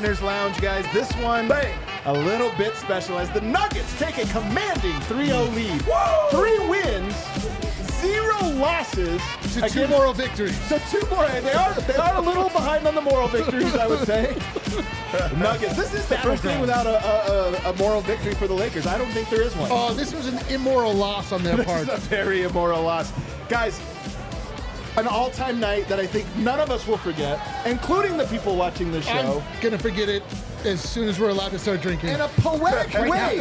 Winner's Lounge, guys. This one, a little bit special as the Nuggets take a commanding 3-0 lead. Whoa! 3 wins, 0 losses. To 2 moral victories. So 2 more. They are a little behind on the moral victories, I would say. Nuggets. This is the first game without a moral victory for the Lakers. I don't think there is one. Oh, this was an immoral loss on their part. This is a very immoral loss. Guys, an all-time night that I think none of us will forget, including the people watching the show. I'm going to forget it as soon as we're allowed to start drinking. In a poetic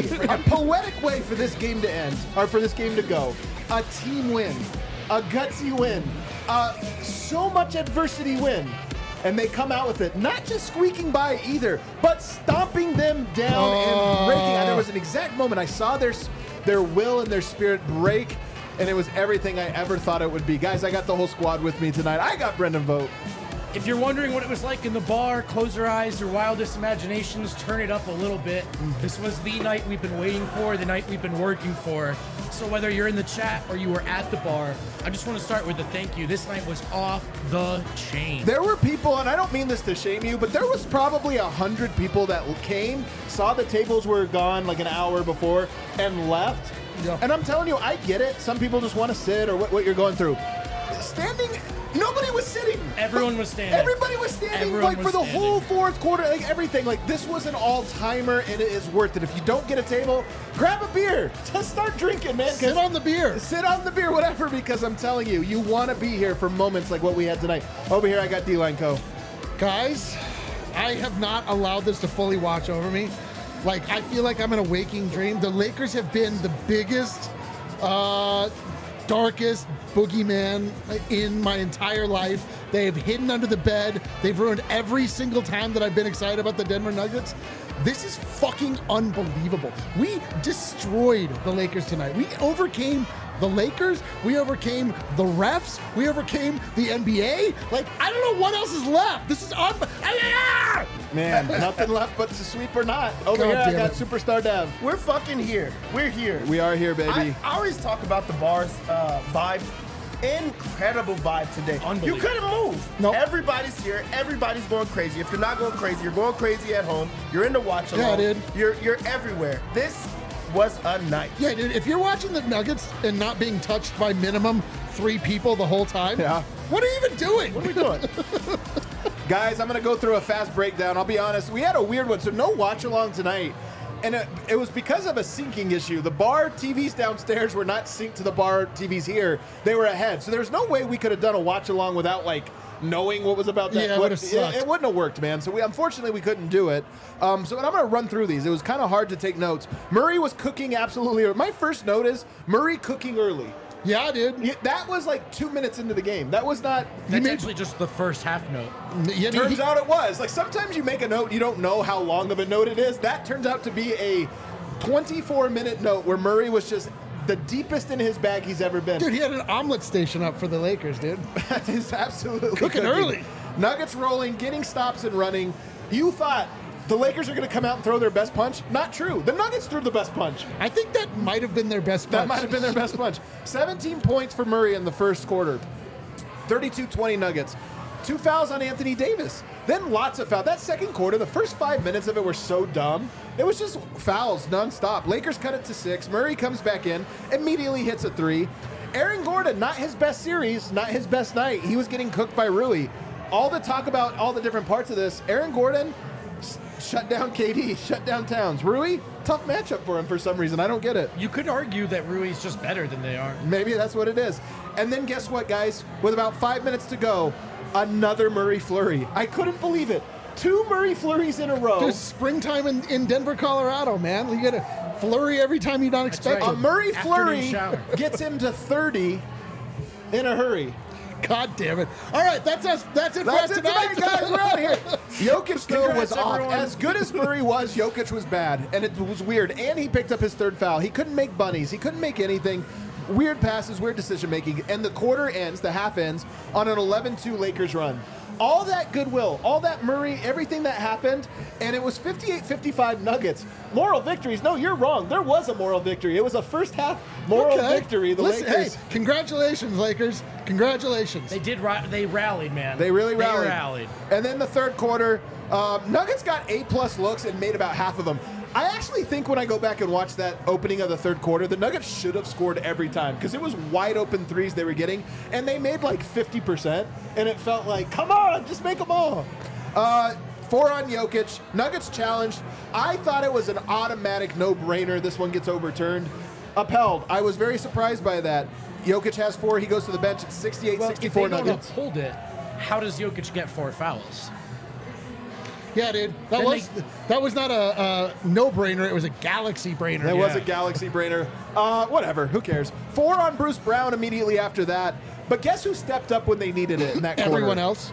way for this game to end, or for this game to go. A team win, a gutsy win, so much adversity win. And they come out with it, not just squeaking by either, but stomping them down and breaking. And there was an exact moment I saw their will and their spirit break, and it was everything I ever thought it would be. Guys, I got the whole squad with me tonight. I got Brendan Vogt. If you're wondering what it was like in the bar, close your eyes, your wildest imaginations, turn it up a little bit. This was the night we've been waiting for, the night we've been working for. So whether you're in the chat or you were at the bar, I just want to start with a thank you. This night was off the chain. There were people, and I don't mean this to shame you, but there was probably 100 people that came, saw the tables were gone like an hour before, and left. Yeah. And I'm telling you, I get it. Some people just want to sit or what you're going through. Standing, nobody was sitting. Everyone was standing. Everybody was standing for the whole fourth quarter, like everything. Like this was an all-timer, and it is worth it. If you don't get a table, grab a beer. Just start drinking, man. Sit on the beer. Sit on the beer, whatever, because I'm telling you, you want to be here for moments like what we had tonight. Over here, I got D-Line Co. Guys, I have not allowed this to fully watch over me. Like, I feel like I'm in a waking dream. The Lakers have been the biggest, darkest boogeyman in my entire life. They have hidden under the bed. They've ruined every single time that I've been excited about the Denver Nuggets. This is fucking unbelievable. We destroyed the Lakers tonight. We overcame the Lakers. We overcame the refs. We overcame the NBA. Like, I don't know what else is left. This is Man, nothing left but to sweep or not. Over God here, I damn got it. Superstar Dev. We're fucking here. We're here. We are here, baby. I always talk about the bar's vibe. Incredible vibe today. You Unbelievable. couldn't move. Nope. Everybody's here. Everybody's going crazy. If you're not going crazy, you're going crazy at home. You're in the watch along. Yeah, dude. You're everywhere. This was a night. Yeah, dude, if you're watching the Nuggets and not being touched by minimum 3 people the whole time, Yeah. what are you even doing? What are we doing? Guys, I'm going to go through a fast breakdown. I'll be honest. We had a weird one, so no watch along tonight. And it was because of a syncing issue. The bar TVs downstairs were not synced to the bar TVs here. They were ahead. So there's no way we could have done a watch along without, like, knowing what was about that. Yeah, it would've sucked. It wouldn't have worked, man. So unfortunately, we couldn't do it. So I'm going to run through these. It was kind of hard to take notes. Murray was cooking absolutely. My first note is Murray cooking early. Yeah, dude. Yeah, that was like 2 minutes into the game. That was not. That's actually just the first half note. Yeah, Turns out it was. Like, sometimes you make a note, you don't know how long of a note it is. That turns out to be a 24-minute note where Murray was just the deepest in his bag he's ever been. Dude, he had an omelet station up for the Lakers, dude. That is absolutely Cooking early. Nuggets rolling, getting stops and running. You thought the Lakers are going to come out and throw their best punch? Not true. The Nuggets threw the best punch. I think that might have been their best punch. That might have been their best punch. 17 points for Murray in the first quarter. 32-20 Nuggets. 2 fouls on Anthony Davis. Then lots of fouls. That second quarter, the first 5 minutes of it were so dumb. It was just fouls nonstop. Lakers cut it to 6. Murray comes back in, immediately hits a 3. Aaron Gordon, not his best series, not his best night. He was getting cooked by Rui. All the talk about all the different parts of this, Aaron Gordon shut down KD, shut down Towns. Rui, tough matchup for him for some reason. I don't get it. You could argue that Rui's just better than they are. Maybe that's what it is. And then guess what, guys? With about 5 minutes to go, another Murray flurry. I couldn't believe it. 2 Murray flurries in a row. Dude, springtime in Denver, Colorado, man. You get a flurry every time you don't expect right. A it. Murray Afternoon flurry shower. gets him to 30 in a hurry. God damn it. All right, that's us. That's it That's for it tonight. tonight, guys. We're out of here. Jokic, though, was Congrats, off. everyone. As good as Murray was, Jokic was bad. And it was weird. And he picked up his 3rd foul. He couldn't make bunnies. He couldn't make anything. Weird passes, weird decision-making. And the quarter ends, the half ends, on an 11-2 Lakers run. all that goodwill, all that Murray, everything that happened, and it was 58-55 Nuggets. Moral victories. No, you're wrong. There was a moral victory. It was a first half moral victory. The Lakers. Hey, congratulations, Lakers. Congratulations. They did. They rallied, man. They really rallied. They rallied. And then the third quarter, Nuggets got A+ looks and made about half of them. I actually think when I go back and watch that opening of the third quarter, the Nuggets should have scored every time because it was wide open threes they were getting, and they made like 50%, and it felt like, come on, just make them all. 4 on Jokic. Nuggets challenged. I thought it was an automatic no-brainer. This one gets overturned. Upheld. I was very surprised by that. Jokic has 4. He goes to the bench. It's 68-64 Well, if they don't Nuggets. uphold it, how does Jokic get 4 fouls? Yeah, dude. That was not a no-brainer. It was a galaxy brainer. That was a galaxy brainer. Whatever. Who cares? 4 on Bruce Brown immediately after that. But guess who stepped up when they needed it in that quarter? Everyone else.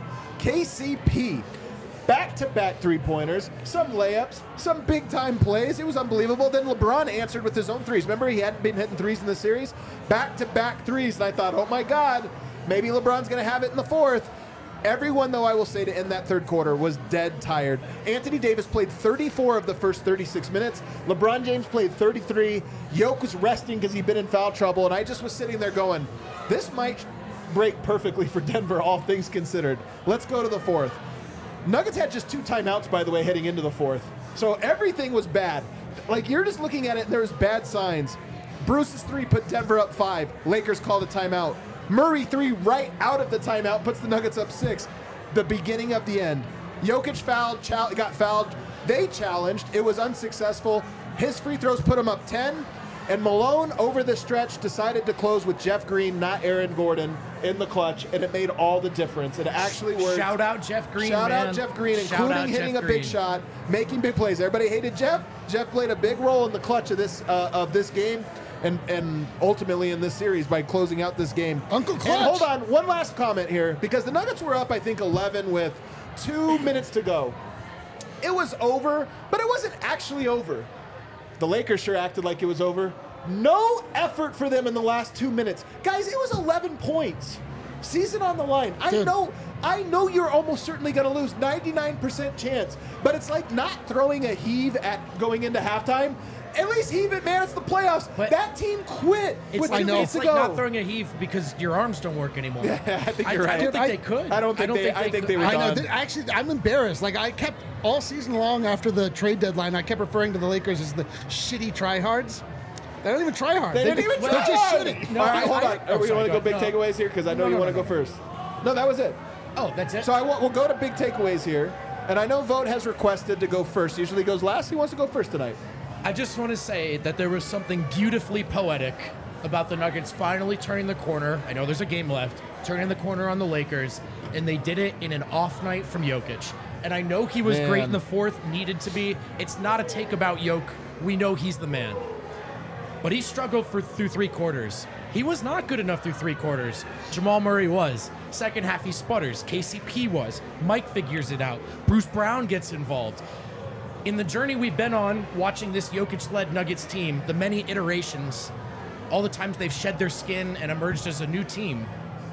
KCP. Back-to-back three-pointers, some layups, some big-time plays. It was unbelievable. Then LeBron answered with his own threes. Remember, he hadn't been hitting threes in the series? Back-to-back threes. And I thought, oh, my God, maybe LeBron's going to have it in the fourth. Everyone, though, I will say, to end that third quarter was dead tired. Anthony Davis played 34 of the first 36 minutes. LeBron James played 33. Jokic was resting because he'd been in foul trouble. And I just was sitting there going, this might break perfectly for Denver, all things considered. Let's go to the fourth. Nuggets had just 2 timeouts, by the way, heading into the fourth. So everything was bad. Like, you're just looking at it, and there's bad signs. Bruce's 3 put Denver up 5. Lakers called a timeout. Murray 3 right out of the timeout puts the Nuggets up 6. The beginning of the end. Jokic got fouled. They challenged. It was unsuccessful. His free throws put him up 10. And Malone, over the stretch, decided to close with Jeff Green, not Aaron Gordon, in the clutch, and it made all the difference. It actually worked. Shout out Jeff Green, Shout man. out Jeff Green, Shout including out hitting Jeff a big Green. shot, making big plays. Everybody hated Jeff. Jeff played a big role in the clutch of this game, and ultimately in this series by closing out this game. Uncle Clutch. And hold on, one last comment here, because the Nuggets were up, I think, 11 with 2 minutes to go. It was over, but it wasn't actually over. The Lakers sure acted like it was over. No effort for them in the last 2 minutes. Guys, it was 11 points. Season on the line. I know you're almost certainly going to lose. 99% chance. But it's like not throwing a heave at going into halftime. At least heave it, man. It's the playoffs. But that team quit with 2 minutes it's to like go. not throwing a heave because your arms don't work anymore. Yeah, I think you're right. I don't think they could. I think they were I know. done. Actually, I'm embarrassed. Like, I kept all season long after the trade deadline, I kept referring to the Lakers as the shitty tryhards. They don't even try hard. They didn't even they're try just hard. shitty. All right, hold on. Oh, We sorry, want to go big no. takeaways here because I know you want to go first. No, that was it. Oh, that's it? So we'll go to big takeaways here. And I know Vogt has requested to go first. Usually goes last. He wants to go first tonight. I just want to say that there was something beautifully poetic about the Nuggets finally turning the corner. I know there's a game left. Turning the corner on the Lakers. And they did it in an off night from Jokic. And I know he was great in the fourth, needed to be. It's not a take about Jokic. We know he's the man. But he struggled through 3 quarters. He was not good enough through 3 quarters. Jamal Murray was. Second half, he sputters. KCP was. Mike figures it out. Bruce Brown gets involved. In the journey we've been on, watching this Jokic-led Nuggets team, the many iterations, all the times they've shed their skin and emerged as a new team.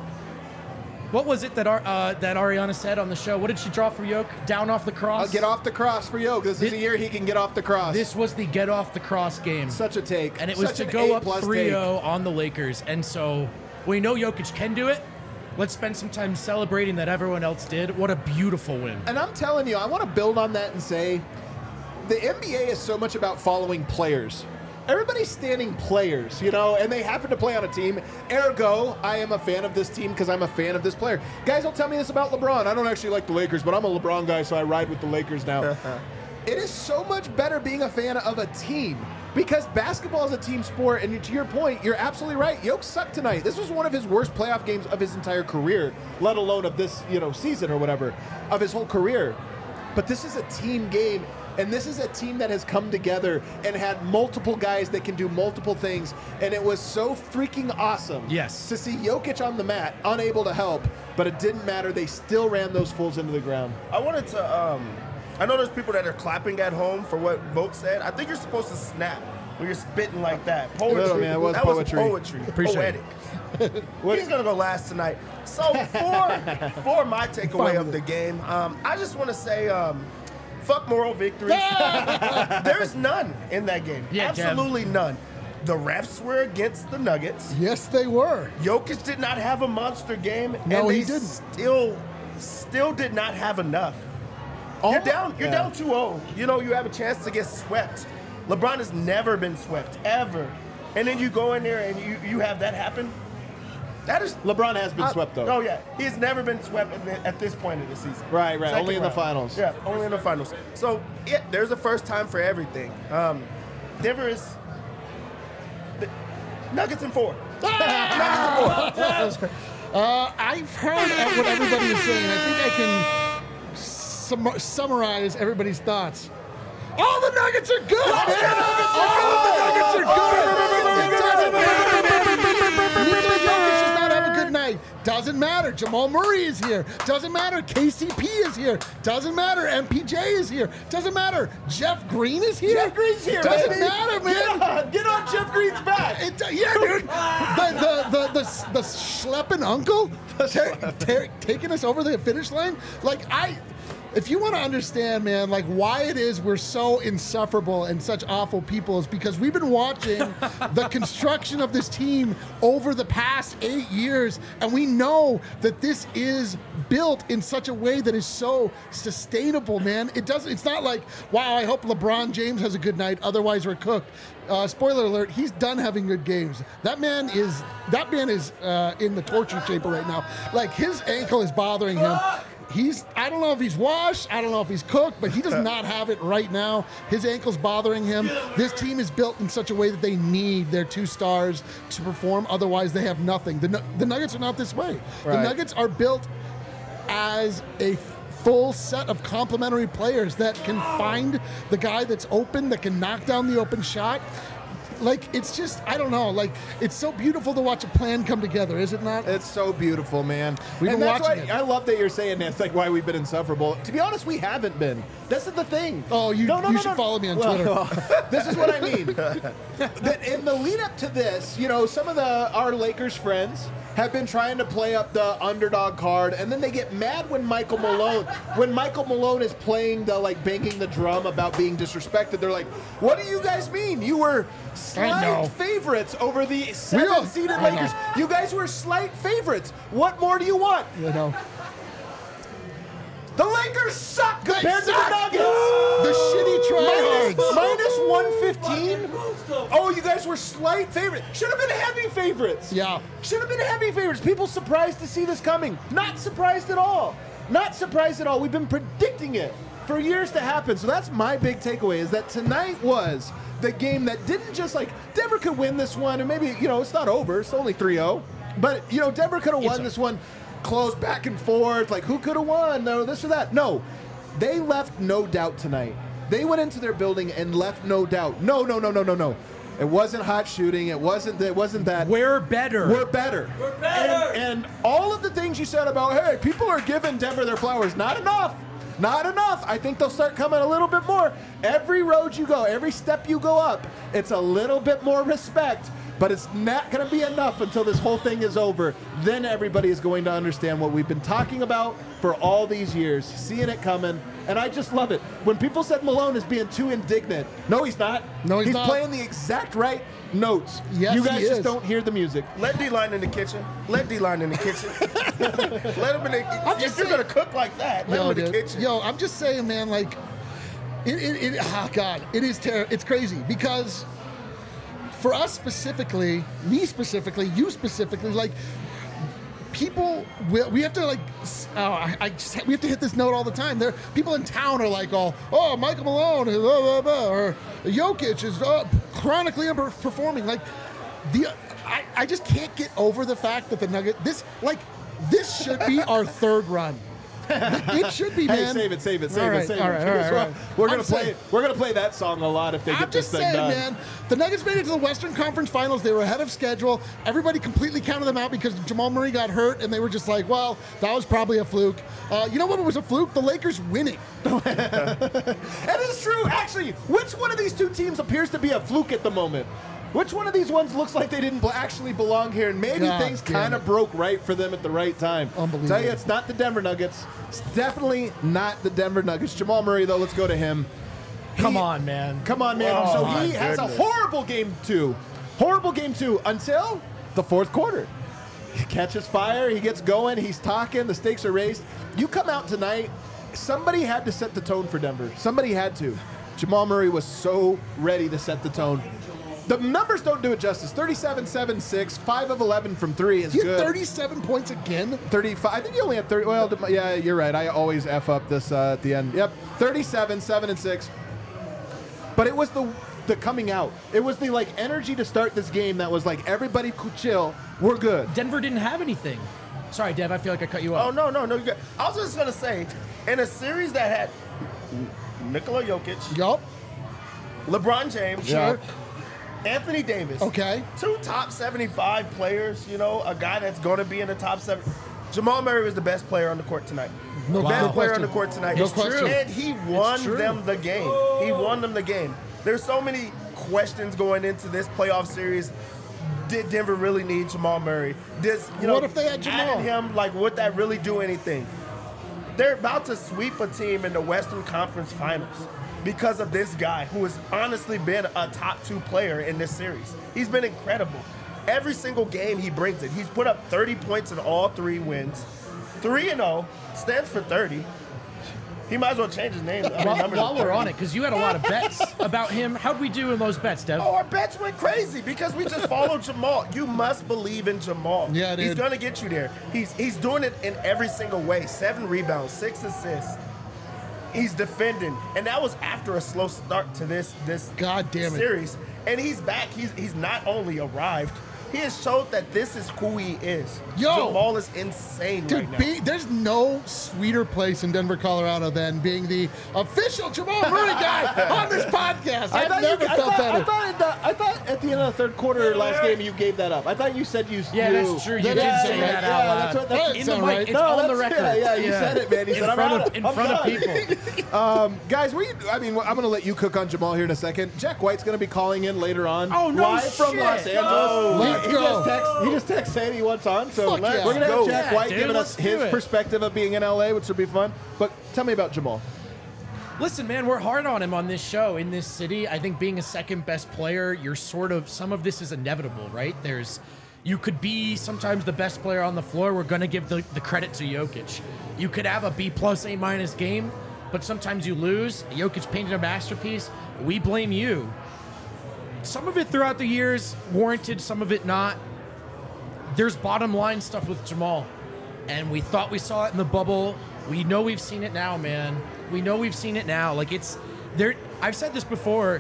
What was it that Ariana said on the show? What did she draw for Jokic? Down off the cross? I'll get off the cross for Jokic. This is the year he can get off the cross. This was the get off the cross game. Such a take. And it was Such to an go up A+ 3-0 on the Lakers. And so we know Jokic can do it. Let's spend some time celebrating that everyone else did. What a beautiful win. And I'm telling you, I want to build on that and say the NBA is so much about following players. Everybody's standing players, and they happen to play on a team. Ergo, I am a fan of this team because I'm a fan of this player. Guys don't tell me this about LeBron. I don't actually like the Lakers, but I'm a LeBron guy, so I ride with the Lakers now. It is so much better being a fan of a team because basketball is a team sport, and to your point, you're absolutely right. Jokic sucked tonight. This was one of his worst playoff games of his entire career, let alone of this season or whatever, of his whole career. But this is a team game. And this is a team that has come together and had multiple guys that can do multiple things. And it was so freaking awesome to see Jokic on the mat, unable to help. But it didn't matter. They still ran those fools into the ground. I wanted to, I know there's people that are clapping at home for what Vogt said. I think you're supposed to snap when you're spitting like that. Poetry. Man, it was that poetry. was poetry. Appreciate Poetic. it. He's going to go last tonight. So for my takeaway of the game, I just want to say fuck moral victories. There's none in that game. Yeah, absolutely none. The refs were against the Nuggets. Yes, they were. Jokic did not have a monster game. No, and they he didn't. Still did not have enough. You're down 2-0. You know, you have a chance to get swept. LeBron has never been swept, ever. And then you go in there and you have that happen. That is LeBron has been swept, though. Oh, yeah. He's never been swept at this point of the season. Right. Second Only in the round. finals. Yeah, only in the finals. So, there's a first time for everything. Denver is... Nuggets in 4. I've heard what everybody is saying. I think I can summarize everybody's thoughts. All the Nuggets are good! All the Nuggets are good! Nikola Jokic does not have a good night. Doesn't matter. Jamal Murray is here. Doesn't matter. KCP is here. Doesn't matter. MPJ is here. Doesn't matter. Jeff Green is here. Jeff Green's here. Doesn't baby. matter, man. Get on Jeff Green's back. Yeah, dude. The schlepping uncle taking us over the finish line. If you want to understand, man, like why it is we're so insufferable and such awful people is because we've been watching the construction of this team over the past 8 years, and we know that this is built in such a way that is so sustainable, man. It's not like, wow, I hope LeBron James has a good night, otherwise we're cooked. Spoiler alert, he's done having good games. That man is in the torture chamber right now. Like his ankle is bothering him. I don't know if he's washed, I don't know if he's cooked, but he does not have it right now. His ankle's bothering him. This team is built in such a way that they need their 2 stars to perform, otherwise they have nothing. The Nuggets are not this way. Right. The Nuggets are built as a full set of complementary players that can find the guy that's open, that can knock down the open shot. Like, it's just, I don't know, like, it's so beautiful to watch a plan come together, is it not? It's so beautiful, man. We've been that's watching why it. I love that you're saying that's like why we've been insufferable. To be honest, we haven't been. This is the thing. Oh, you should follow me on Twitter. This is what I mean. That in the lead up to this, you know, some of our Lakers friends have been trying to play up the underdog card, and then they get mad when Michael Malone is playing the like banging the drum about being disrespected. They're like, "What do you guys mean? You were slight favorites over the 7th-seeded Lakers. You guys were slight favorites. What more do you want?" You know. The Lakers suck compared to the Nuggets. The shitty tryhards. Minus 115. Oh, you guys were slight favorites. Should have been heavy favorites. Yeah. Should have been heavy favorites. People surprised to see this coming. Not surprised at all. Not surprised at all. We've been predicting it for years to happen. So that's my big takeaway, is that tonight was the game that didn't just like, Denver could win this one, and maybe, you know, it's not over. It's only 3-0. But, you know, Denver could have won this one close back and forth. Like, who could have won? No, this or that. No. They left no doubt tonight. They went into their building and left no doubt. No. It wasn't hot shooting. It wasn't that. We're better. We're better. We're better. And all of the things you said about, hey, people are giving Denver their flowers. Not enough. Not enough. I think they'll start coming a little bit more. Every road you go, every step you go up, it's a little bit more respect. But it's not going to be enough until this whole thing is over. Then everybody is going to understand what we've been talking about for all these years, seeing it coming. And I just love it. When people said Malone is being too indignant, no, he's not. No, he's not. He's playing the exact right notes. Yes, you guys he just is. don't hear the music. Let D-Line in the kitchen. Let D-Line in the kitchen. Let him in the I'm If just you're saying- going to cook like that, let him in the dude. kitchen. Yo, I'm just saying, man, like, oh, God, it is it's crazy because for us specifically, me specifically, you specifically, like, people, we have to, like, we have to hit this note all the time. People in town are like, oh, Michael Malone, blah, blah, blah, or Jokic is chronically underperforming. Like, I just can't get over the fact that the Nuggets, this should be our third run. It should be, man. Hey, save it. All right. We're gonna play that song a lot if they I'm get this just thing saying, done. man, the Nuggets made it to the Western Conference Finals. They were ahead of schedule. Everybody completely counted them out because Jamal Murray got hurt, and they were just like, well, that was probably a fluke. You know what was a fluke? The Lakers winning. That is true. Actually, which one of these two teams appears to be a fluke at the moment? Which one of these ones looks like they didn't actually belong here, and maybe God things damn kind it. of broke right for them at the right time? Unbelievable. Tell you, it's not the Denver Nuggets. It's definitely not the Denver Nuggets. Jamal Murray, though, let's go to him. Come on, man. Come on, man. Oh, So my he has a goodness. horrible game two. Horrible game two until the fourth quarter. He catches fire. He gets going. He's talking. The stakes are raised. You come out tonight. Somebody had to set the tone for Denver. Somebody had to. Jamal Murray was so ready to set the tone. The numbers don't do it justice. 37, 7, 6, 5 of 11 from 3 is He had good. 37 points again. 35. I think he only had 30. Well, yeah, you're right. I always F up this at the end. Yep. 37, 7, and 6. But it was the coming out. It was the like energy to start this game that was like everybody could chill. We're good. Denver didn't have anything. Sorry, Dev. I feel like I cut you Oh, off. no. You're good. I was just going to say, in a series that had Nikola Jokic, Yup. LeBron James, Yeah. Anthony Davis. Okay. 2 top 75 players, a guy that's going to be in the top 7. Jamal Murray was the best player on the court tonight. No, Best no player question. on the court tonight. No question. And he won true. them the game. He won them the game. There's so many questions going into this playoff series. Did Denver really need Jamal Murray? What if they had Jamal? Adding him, like, would that really do anything? They're about to sweep a team in the Western Conference Finals because of this guy who has honestly been a top 2 player in this series. He's been incredible. Every single game he brings it. He's put up 30 points in all 3 wins. 3-0, stands for 30. He might as well change his name. While we're on it, because you had a lot of bets about him. How'd we do in those bets, Dev? Oh, our bets went crazy because we just followed Jamal. You must believe in Jamal. Yeah, dude. He's going to get you there. He's doing it in every single way. 7 rebounds, 6 assists. He's defending. And that was after a slow start to this God damn it. series. And he's back. He's not only arrived, he has showed that this is who he is. Yo. Jamal is insane Dude, right now. there's no sweeter place in Denver, Colorado than being the official Jamal Murray guy on this podcast. I've never felt better. I thought at the end of the third quarter last game you gave that up. I thought you said you. Yeah, that's true. You did say that out loud. That's what, that's, That In the sound mic, right. it's on the that's- record. Yeah, you said it, man. You said I'm out. In I'm front of done. people. Guys, I'm going to let you cook on Jamal here in a second. Jack White's going to be calling in later on. Oh, no live from shit. Los Angeles. No. Let's go. He just texted saying he wants on. So Fuck yeah. we're going to have Go. Jack Yeah, White dude, giving us let's do his it. perspective of being in LA, which will be fun. But tell me about Jamal. Listen, man, we're hard on him on this show in this city. I think being a second best player, some of this is inevitable, right? You could be sometimes the best player on the floor. We're going to give the credit to Jokic. You could have a B+, A- game, but sometimes you lose. Jokic painted a masterpiece. We blame you. Some of it throughout the years warranted, some of it not. There's bottom line stuff with Jamal, and we thought we saw it in the bubble. We know we've seen it now, man. We know we've seen it now. Like, it's there. I've said this before.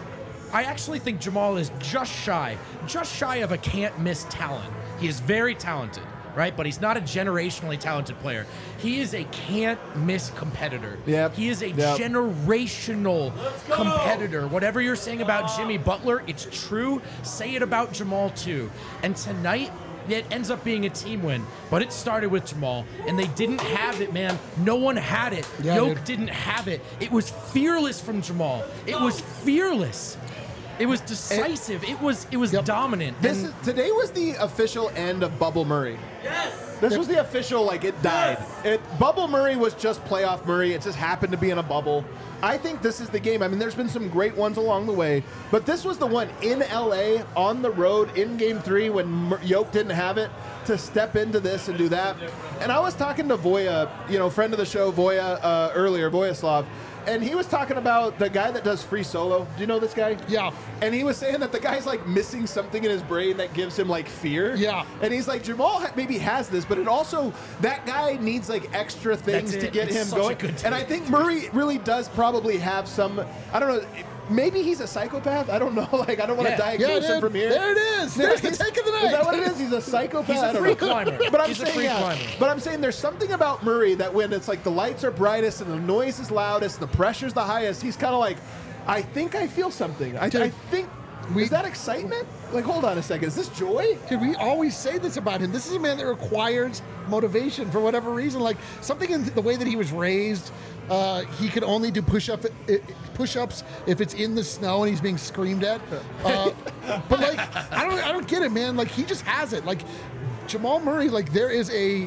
I actually think Jamal is just shy of a can't miss talent. He is very talented, right? But he's not a generationally talented player. He is a can't miss competitor. Yep. He is a Yep. generational competitor. Whatever you're saying about Jimmy Butler, it's true. Say it about Jamal too. And tonight, it ends up being a team win, but it started with Jamal, and they didn't have it, man. No one had it. Yeah, Yoke dude. didn't have it. It was fearless from Jamal. It was fearless. It was decisive. It was dominant. And Today was the official end of Bubble Murray. This was the official, like, it died. Bubble Murray was just playoff Murray. It just happened to be in a bubble. I think this is the game. I mean, there's been some great ones along the way, but this was the one in LA, on the road, in Game 3, when Yoke didn't have it, to step into this and do that. And I was talking to Voya, friend of the show, Voya, earlier, Voyaslav, and he was talking about the guy that does free solo. Do you know this guy? Yeah. And he was saying that the guy's like missing something in his brain that gives him like fear. Yeah. And he's like, Jamal maybe has this, but it also, that guy needs like extra things That's to it. get It's him such a going. good And I take. think Murray really does probably have some, I don't know, maybe he's a psychopath. I don't know. Like, I don't want to Yeah. diagnose him from here. There it is. There's the take of the night. Is that what it is? He's a psychopath. He's a I don't free know. climber. But I'm He's a saying, free yeah. climber. But I'm saying there's something about Murray that when it's like the lights are brightest and the noise is loudest, the pressure's the highest, he's kind of like, I think I feel something. I think. Is that excitement? Like, hold on a second. Is this joy? Dude, we always say this about him. This is a man that requires motivation for whatever reason. Like, something in the way that he was raised, He can only do push-ups if it's in the snow and he's being screamed at. But like, I don't get it, man. Like, he just has it. Like, Jamal Murray, like, there's a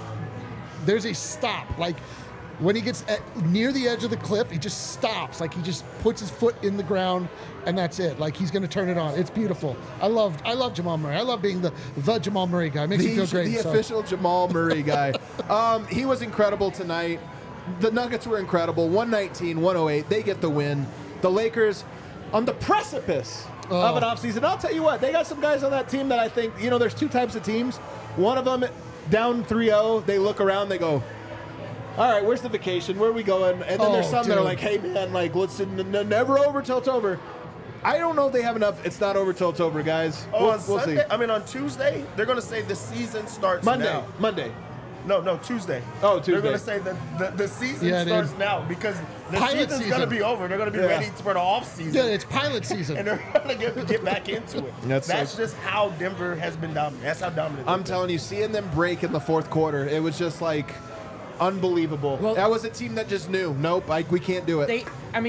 stop. Like, when he gets near the edge of the cliff, he just stops. Like, he just puts his foot in the ground, and that's it. Like, he's going to turn it on. It's beautiful. I love Jamal Murray. I love being the Jamal Murray guy. It makes me feel great. The official Jamal Murray guy. He was incredible tonight. The Nuggets were incredible. 119-108. They get the win. The Lakers on the precipice of an offseason. I'll tell you what, they got some guys on that team that I think, there's two types of teams. One of them, down 3-0, they look around, they go, all right, where's the vacation? Where are we going? And then there's some that are like, hey, man, like, let's never over till it's over. I don't know if they have enough. It's not over till it's over, guys. On see. Sunday, on Tuesday, they're going to say the season starts now. Monday. No, Tuesday. Oh, Tuesday. They're going to say that the season starts now because the season's going to be over. They're going to be ready for the off season. Yeah, it's pilot season. And they're going to get back into it. That's just how Denver has been dominant. That's how dominant I'm telling you, seeing them break in the fourth quarter, it was just like unbelievable. Well, that was a team that just knew, nope, we can't do it.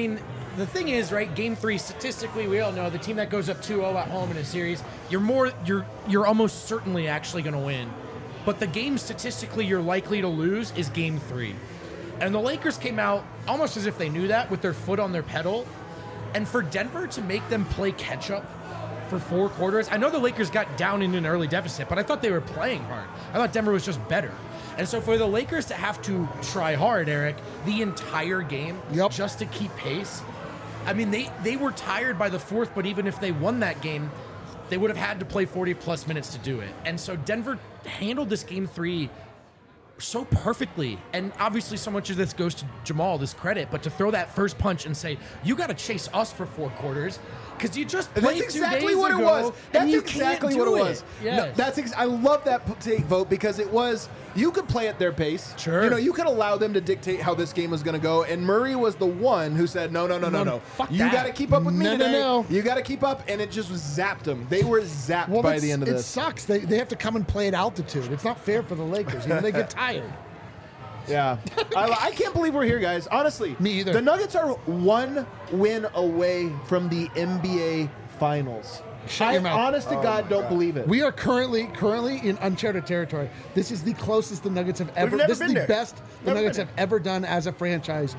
The thing is, right, Game 3, statistically, we all know the team that goes up 2-0 at home in a series, you're almost certainly actually going to win. But the game statistically you're likely to lose is Game 3. And the Lakers came out almost as if they knew that, with their foot on their pedal. And for Denver to make them play catch-up for 4 quarters, I know the Lakers got down in an early deficit, but I thought they were playing hard. I thought Denver was just better. And so for the Lakers to have to try hard, Eric, the entire game just to keep pace, they were tired by the fourth, but even if they won that game, they would have had to play 40-plus minutes to do it. And so Denver handled this Game 3 so perfectly. And obviously so much of this goes to Jamal, this credit, but to throw that first punch and say, you got to chase us for 4 quarters because you just played That's exactly what it was. That's exactly what it was. Yes. No, I love that take vote because it was, you could play at their pace. Sure. You could allow them to dictate how this game was going to go. And Murray was the one who said, no. Fuck you that. got to keep up with me today. No. You got to keep up. And it just zapped them. They were zapped by the end of this. It sucks. They have to come and play at altitude. It's not fair for the Lakers. They get tired. Yeah. I can't believe we're here, guys. Honestly. Me either. The Nuggets are 1 win away from the NBA Finals. Shut your mouth. Honest to God, don't believe it. We are currently in uncharted territory. This is the closest the Nuggets have ever. never This is been the there. best the Nuggets have ever done as a franchise,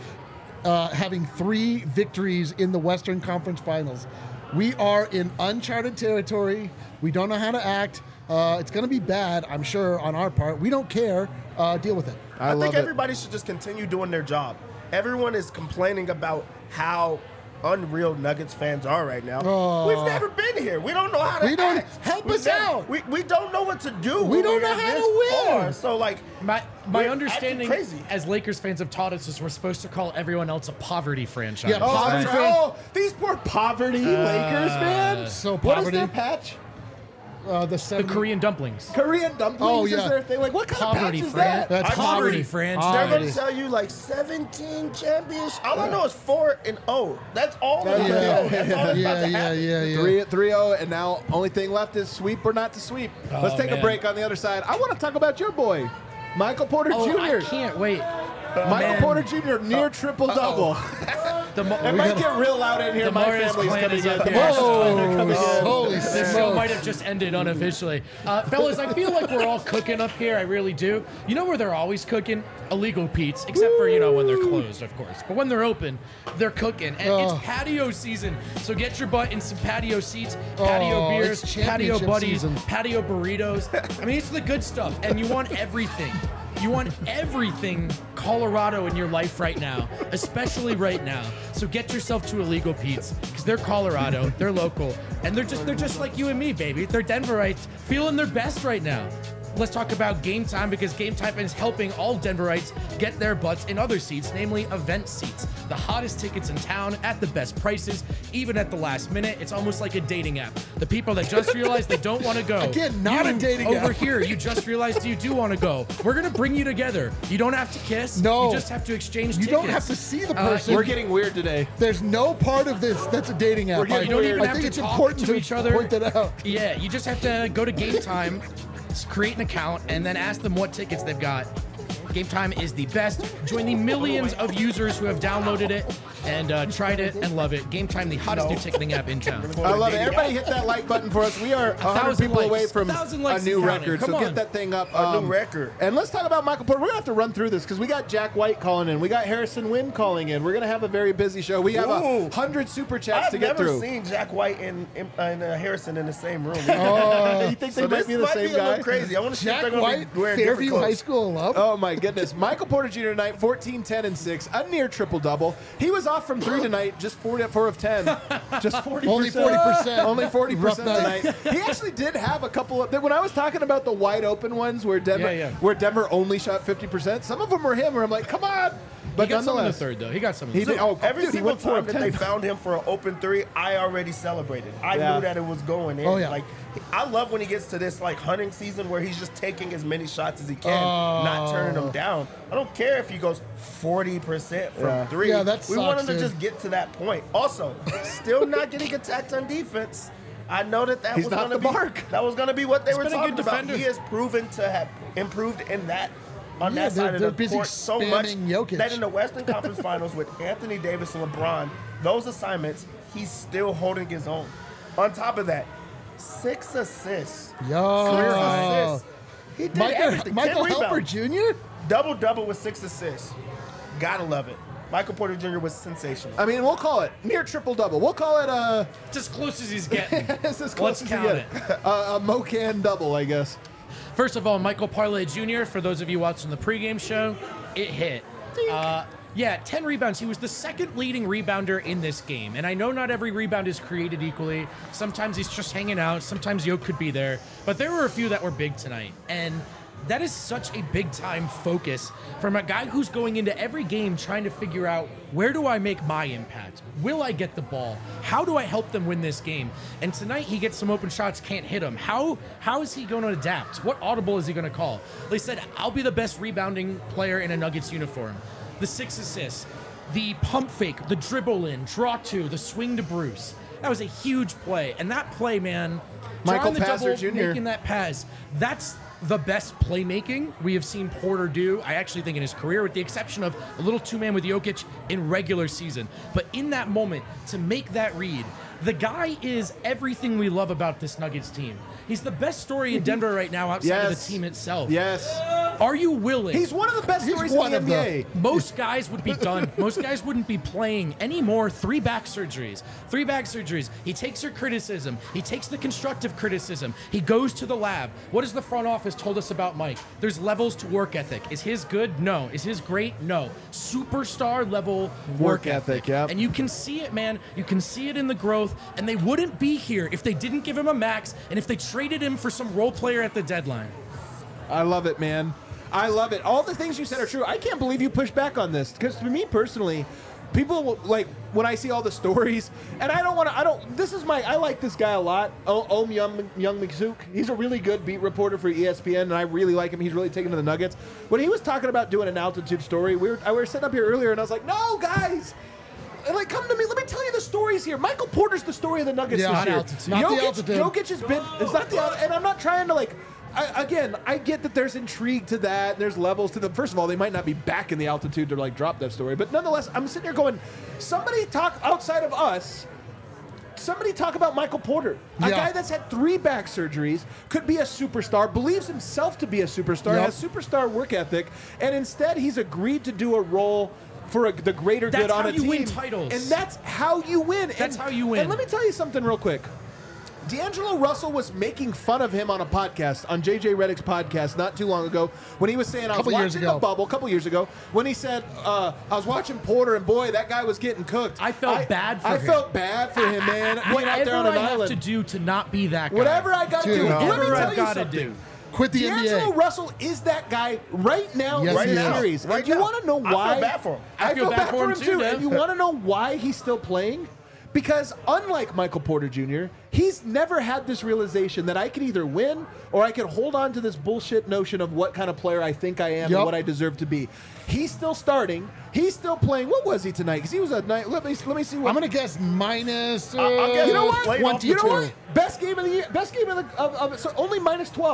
having 3 victories in the Western Conference Finals. We are in uncharted territory. We don't know how to act. It's going to be bad, I'm sure, on our part. We don't care. Deal with it. I think everybody should just continue doing their job. Everyone is complaining about how unreal Nuggets fans are right now. We've never been here. We don't know how to act. Help us out. We don't know what to do. We don't know how to win. So, like, My we're understanding acting crazy. as Lakers fans have taught us is we're supposed to call everyone else a poverty franchise. Yeah, poverty Oh, fans. these poor poverty Lakers, man. So What is poverty. their patch? The The 70 Korean dumplings. Korean dumplings Oh, is yeah. their thing. Like, what kind Poverty of patch is fran- that? That's poverty poverty. franchise. They're going Poverty. to tell you like 17 championships. All I know is 4-0. That's all they know. That's all that's about to happen. yeah. 3-0, and now only thing left is sweep or not to sweep. Let's take a man. break on the other side. I want to talk about your boy, Michael Porter Oh, Jr. I can't wait. Michael Man. Porter Jr. near triple-double. The It might get real loud in here. The My Morris family's clan coming is in. up The here. Morris clan are coming in. Holy This show might have just ended unofficially. Fellas, I feel like we're all cooking up here. I really do. You know where they're always cooking? Illegal Pete's, except for, when they're closed, of course. But when they're open, they're cooking. And it's patio season. So get your butt in some patio seats, patio beers, it's patio championship buddies, season. patio burritos. It's the good stuff. And you want everything. You want everything Colorado in your life right now, especially right now. So get yourself to Illegal Pete's because they're Colorado, they're local, and they're just like you and me, baby. They're Denverites feeling their best right now. Let's talk about Game Time because Game Time is helping all Denverites get their butts in other seats, namely event seats. The hottest tickets in town at the best prices, even at the last minute. It's almost like a dating app. The people that just realized they don't want to go. Again, not a dating app. Over here, you just realized you do want to go. We're going to bring you together. You don't have to kiss. No. You just have to exchange You tickets. don't have to see the person. We're getting weird today. There's no part of this that's a dating app. getting You don't even I have think to it's talk important to each other. point that out. Yeah, you just have to go to Game Time, create an account, and then ask them what tickets they've got. Game Time is the best. Join the millions of users who have downloaded it and tried it and love it. Game Time, the hottest new ticketing app in town. I love it. Everybody hit that like button for us. We are 100 people away from a new record, so get that thing up. A new record. And let's talk about Michael Porter. We're going to have to run through this because we got Jack White calling in. We got Harrison Wynn calling in. We're going to have a very busy show. We have 100 super chats to get through. I've never seen Jack White and Harrison in the same room. You think they might be the same guy? guy? A little crazy. I want to see if they're Jack going White, to be wearing Fairview different High clothes. School alum. Oh my goodness. Michael Porter Jr. tonight, 14, 10, and 6. A near triple-double. He was off from 3 tonight, just 4 of 10. Just 40%. Only 40%. Only 40% Rough night. tonight. He actually did have a couple of... When I was talking about the wide open ones where Denver only shot 50%, some of them were him where I'm like, come on. But He got some in the nonetheless, third, though. He got some in the He third. did. Oh, Every dude, he single went 4 time of that 10. they found him for an open 3, I already celebrated. I Yeah. knew that it was going in. Oh, yeah. Like, I love when he gets to this like hunting season where he's just taking as many shots as he can, not turning them down. I don't care if he goes 40% from 3. Yeah, that we want him sucks, to dude. just get to that point. Also, still not getting attacked on defense. I know that He's was not going to the be mark. that was going to be what they were been a talking good about. defender. He has proven to have improved in that. On Yeah, that side they're of the busy court so much spamming Jokic. that in the Western Conference Finals with Anthony Davis and LeBron, those assignments, he's still holding his own. On top of that, 6 assists. Yo. 6 assists. He did everything. 10 Michael Helper rebounds. Jr.? Double-double with 6 assists. Gotta love it. Michael Porter Jr. was sensational. I mean, we'll call it near triple-double. We'll call it It's as close as he's getting. it's as close Let's as you count get. A Mocan double, I guess. First of all, Michael Parlay Jr., for those of you watching the pregame show, it hit. 10 rebounds. He was the second leading rebounder in this game. And I know not every rebound is created equally. Sometimes he's just hanging out. Sometimes Yoke could be there. But there were a few that were big tonight. And that is such a big-time focus from a guy who's going into every game trying to figure out, where do I make my impact? Will I get the ball? How do I help them win this game? And tonight he gets some open shots, can't hit them. How is he going to adapt? What audible is he going to call? They said, I'll be the best rebounding player in a Nuggets uniform. The 6 assists, the pump fake, the dribble in, draw 2, the swing to Bruce. That was a huge play. And that play, man, Michael drawing the Passer double, Jr. making that pass, that's the best playmaking we have seen Porter do, I actually think, in his career, with the exception of a little two-man with Jokic in regular season. But in that moment, to make that read, the guy is everything we love about this Nuggets team. He's the best story in Denver right now outside of the team itself. Yes. Are you willing? He's one of the best He's stories one in the of NBA. Most guys would be done. Most guys wouldn't be playing anymore. 3 back surgeries. 3 back surgeries. He takes your criticism. He takes the constructive criticism. He goes to the lab. What has the front office told us about Mike? There's levels to work ethic. Is his good? No. Is his great? No. Superstar level work ethic. Yep. And you can see it, man. You can see it in the growth. And they wouldn't be here if they didn't give him a max and if they traded him for some role player at the deadline. I love it, man. I love it. All the things you said are true. I can't believe you pushed back on this, because for me personally, people like when I see all the stories, and I like this guy a lot. Young McZook. He's a really good beat reporter for ESPN, and I really like him. He's really taken to the Nuggets. When he was talking about doing an altitude story, we were sitting up here earlier, and I was like, no, guys. Like, come to me. Let me tell you the stories here. Michael Porter's the story of the Nuggets Yeah, this not year. altitude. Not the altitude. Jokic has been. It's not the. And I'm not trying to like. I get that there's intrigue to that. And there's levels to them. First of all, they might not be back in the altitude to like drop that story, but nonetheless, I'm sitting here going, somebody talk outside of us. Somebody talk about Michael Porter, a guy that's had 3 back surgeries, could be a superstar, believes himself to be a superstar, has superstar work ethic, and instead he's agreed to do a role for the greater good on a team. That's how you win titles. And that's how you win. That's how you win. And let me tell you something real quick. D'Angelo Russell was making fun of him on a podcast, on JJ Redick's podcast, not too long ago, when he was saying, I was watching the bubble, a couple years ago, when he said, I was watching Porter, and boy, that guy was getting cooked. I felt bad for him. I felt bad for him, man. Being out there on an Whatever I island. have to do to not be that guy. Whatever I got to do. Let me Whatever tell I've you got to something. do. Quit the D'Angelo NBA. Russell is that guy right now Yes, in he this is. series. Right And you now. want to know I why? feel bad for him. I feel bad for him too. Dev. And you want to know why he's still playing? Because unlike Michael Porter Jr., he's never had this realization that I can either win or I can hold on to this bullshit notion of what kind of player I think I am and what I deserve to be. He's still starting. He's still playing. What was he tonight? Because he was a night. Let me see. What I'm gonna guess minus. I'll guess you know what? 22. You know what? Best game of the year. Best game of so only minus 12.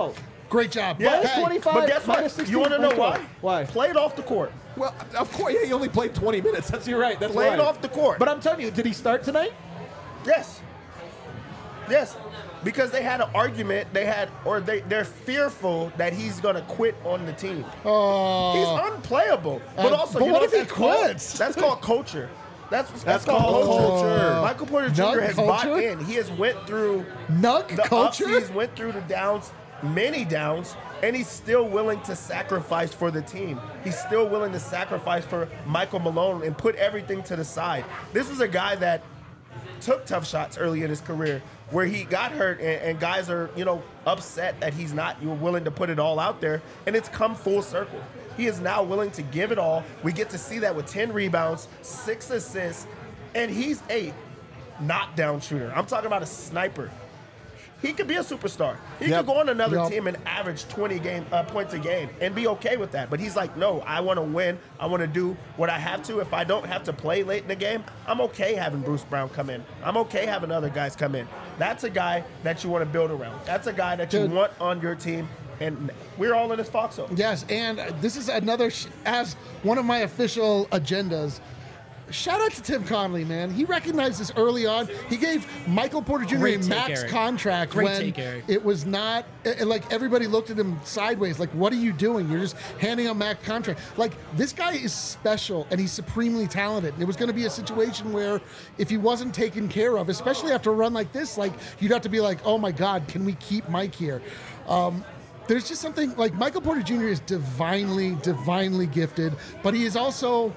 Great job. Yeah, Minus Hey, 25. but guess what? minus 16, You want to know minus why? 12. Why? Played off the court. Well, of course, yeah, he only played 20 minutes. You're right. That's Played why. off the court. But I'm telling you, did he start tonight? Yes. Yes. Because they had an argument. They're fearful that he's gonna quit on the team. He's unplayable. But also, but you what know if he that's called? quits? That's called culture. That's called called culture. Michael Porter Jr. Nug has culture? bought in. He has went through Nug the culture? ups, he's went through the downs, many downs, and he's still willing to sacrifice for the team. He's still willing to sacrifice for Michael Malone and put everything to the side. This was a guy that took tough shots early in his career where he got hurt and guys are, upset that he's not willing to put it all out there, and it's come full circle. He is now willing to give it all. We get to see that with 10 rebounds, 6 assists, and he's a knockdown shooter. I'm talking about a sniper. He could be a superstar. He could go on another Yep. team and average 20 points a game and be okay with that. But he's like, no, I want to win. I want to do what I have to. If I don't have to play late in the game, I'm okay having Bruce Brown come in. I'm okay having other guys come in. That's a guy that you want to build around. That's a guy that you Dude. want on your team. And we're all in this foxhole. Yes, and this is another, as one of my official agendas, shout out to Tim Connolly, man. He recognized this early on. He gave Michael Porter Jr. Great a take, max Eric. contract Great when take, Eric. it was not, like everybody looked at him sideways, like, what are you doing? You're just handing a max contract. Like, this guy is special and he's supremely talented. And it was going to be a situation where if he wasn't taken care of, especially after a run like this, like, you'd have to be like, oh my God, can we keep Mike here? There's just something, like, Michael Porter Jr. is divinely gifted, but he is also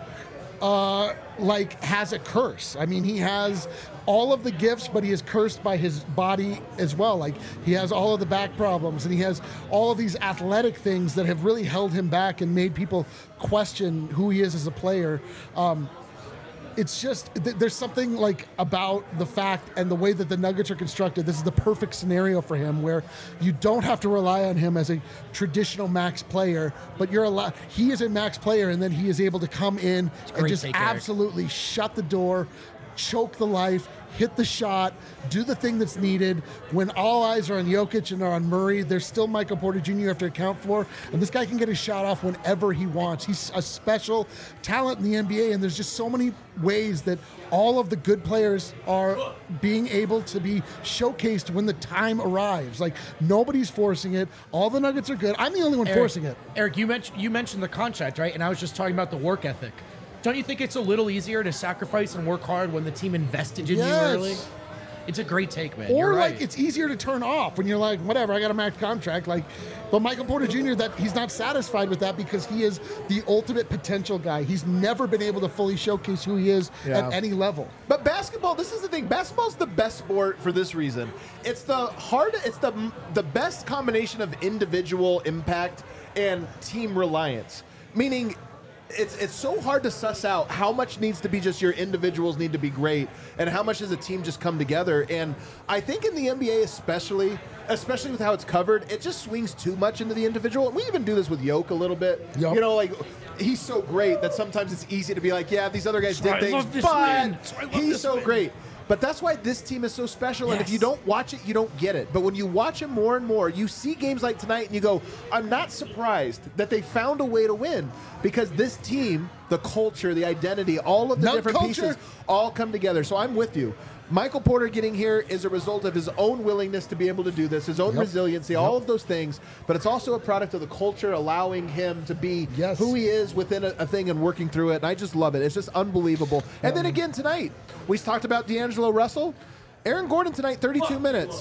has a curse. I mean, he has all of the gifts, but he is cursed by his body as well. Like, he has all of the back problems, and he has all of these athletic things that have really held him back and made people question who he is as a player. It's just, there's something like about the fact and the way that the Nuggets are constructed. This is the perfect scenario for him where you don't have to rely on him as a traditional max player, but he is a max player, and then he is able to come in and great just take, Eric. absolutely shut the door, choke the life, hit the shot, do the thing that's needed. When all eyes are on Jokic and are on Murray, there's still Michael Porter Jr. you have to account for, and this guy can get his shot off whenever he wants. He's a special talent in the NBA, and there's just so many ways that all of the good players are being able to be showcased when the time arrives. Like, nobody's forcing it. All the Nuggets are good. I'm the only one forcing it. Eric, you mentioned the contract, right? And I was just talking about the work ethic. Don't you think it's a little easier to sacrifice and work hard when the team invested in you early? It's a great take, man. Or You're like right. it's easier to turn off when you're like, whatever, I got a max contract. Like, but Michael Porter Jr., that he's not satisfied with that because he is the ultimate potential guy. He's never been able to fully showcase who he is at any level. But basketball, this is the thing. Basketball's the best sport for this reason. It's the best combination of individual impact and team reliance. Meaning, it's so hard to suss out how much needs to be just your individuals need to be great and how much does a team just come together. And I think in the NBA especially with how it's covered, it just swings too much into the individual. We even do this with Yoke a little bit. Yep. You know, like, he's so great that sometimes it's easy to be like, yeah, these other guys did I things, love this but win. That's why I love he's this so win. great. But that's why this team is so special. And if Yes. you don't watch it, you don't get it. But when you watch it more and more, you see games like tonight and you go, I'm not surprised that they found a way to win because this team, the culture, the identity, all of the Nug different culture. pieces all come together. So I'm with you. Michael Porter getting here is a result of his own willingness to be able to do this, his own resiliency, all of those things. But it's also a product of the culture allowing him to be who he is within a thing and working through it. And I just love it. It's just unbelievable. And then again tonight, we talked about D'Angelo Russell. Aaron Gordon tonight, 32 minutes.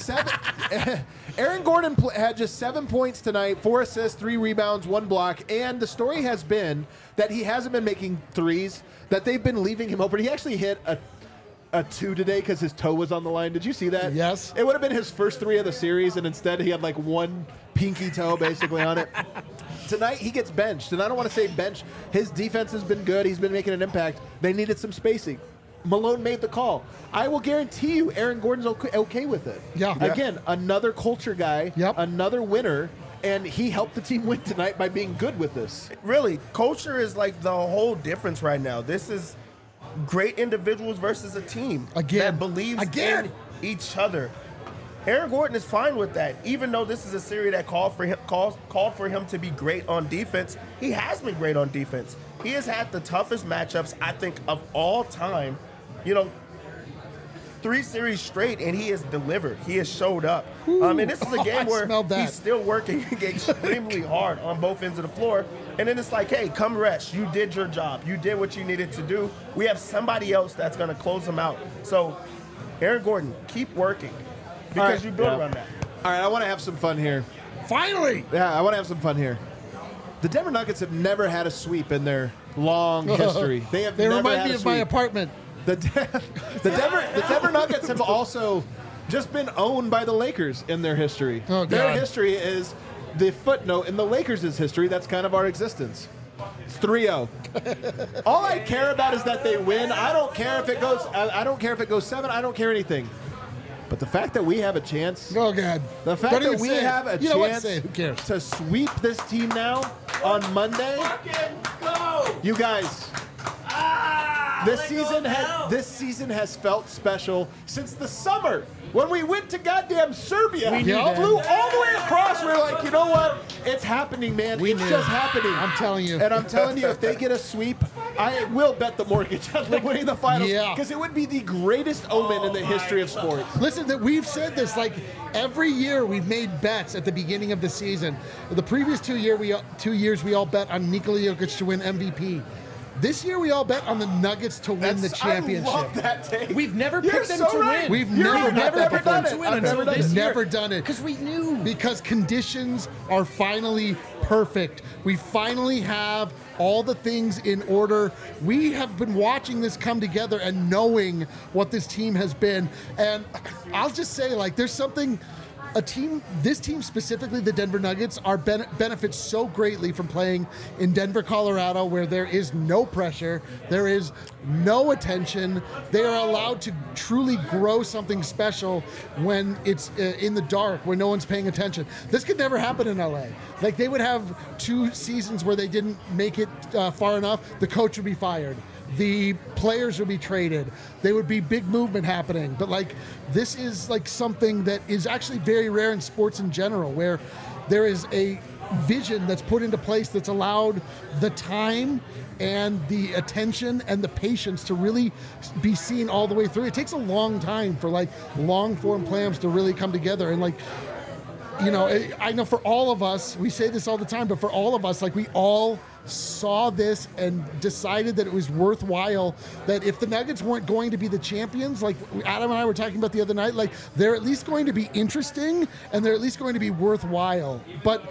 Aaron Gordon had just 7 points tonight, 4 assists, 3 rebounds, 1 block. And the story has been that he hasn't been making threes, that they've been leaving him open. He actually hit a 2 today because his toe was on the line. Did you see that? Yes. It would have been his first 3 of the series, and instead he had like 1 pinky toe basically on it. Tonight he gets benched, and I don't want to say bench. His defense has been good. He's been making an impact. They needed some spacing. Malone made the call. I will guarantee you Aaron Gordon's okay with it. Yeah. Again, another culture guy, Yep. another winner, and he helped the team win tonight by being good with this. Really, culture is like the whole difference right now. This is great individuals versus a team Again. that believes Again. in each other. Aaron Gordon is fine with that. Even though this is a series that called for him to be great on defense, he has been great on defense. He has had the toughest matchups, I think, of all time. 3 series straight, and he has delivered. He has showed up. And this is a game where he's still working extremely hard on both ends of the floor. And then it's like, hey, come rest. You did your job. You did what you needed to do. We have somebody else that's going to close him out. So, Aaron Gordon, keep working because you build around that. All right, I want to have some fun here. Finally! Yeah, I want to have some fun here. The Denver Nuggets have never had a sweep in their long history. They never remind had me a of sweep. my apartment. The Denver Nuggets have also just been owned by the Lakers in their history. Oh, their God. history is the footnote in the Lakers' history. That's kind of our existence. It's 3-0. All I care about is that they win. I don't care if it goes. I don't care if it goes 7. I don't care anything. But the fact that we have a chance. Oh, God. The fact that we have a chance Who cares? to sweep this team now on Monday. You guys. This season has felt special since the summer when we went to goddamn Serbia. We knew that. Flew all the way across. We were like, you know what? It's happening, man. We it's knew. just happening. I'm telling you. And I'm telling you, if they get a sweep, I will bet the mortgage on them winning the finals. Yeah. Because it would be the greatest omen in the history of sports. Listen, that we've said this like every year we've made bets at the beginning of the season. The previous 2 years we all bet on Nikola Jokic to win MVP. This year we all bet on the Nuggets to win the championship. I love that take. We've never You're picked them so to right. win. We've You're never right. bet I've that never before. done it. To win I've until never done this it. year. Never done it. Because we knew. Because conditions are finally perfect. We finally have all the things in order. We have been watching this come together and knowing what this team has been. And I'll just say, like, there's something. This team specifically, the Denver Nuggets, benefits so greatly from playing in Denver, Colorado, where there is no pressure, there is no attention. They are allowed to truly grow something special when it's in the dark, when no one's paying attention. This could never happen in LA. Like, they would have 2 seasons where they didn't make it far enough. The coach would be fired. The players would be traded. There would be big movement happening. But like, this is like something that is actually very rare in sports in general, where there is a vision that's put into place that's allowed the time and the attention and the patience to really be seen all the way through. It takes a long time for like long form plans to really come together. And like, you know, I know for all of us, we say this all the time, but for all of us, like, we all saw this and decided that it was worthwhile, that if the Nuggets weren't going to be the champions, like Adam and I were talking about the other night, like, they're at least going to be interesting and they're at least going to be worthwhile. But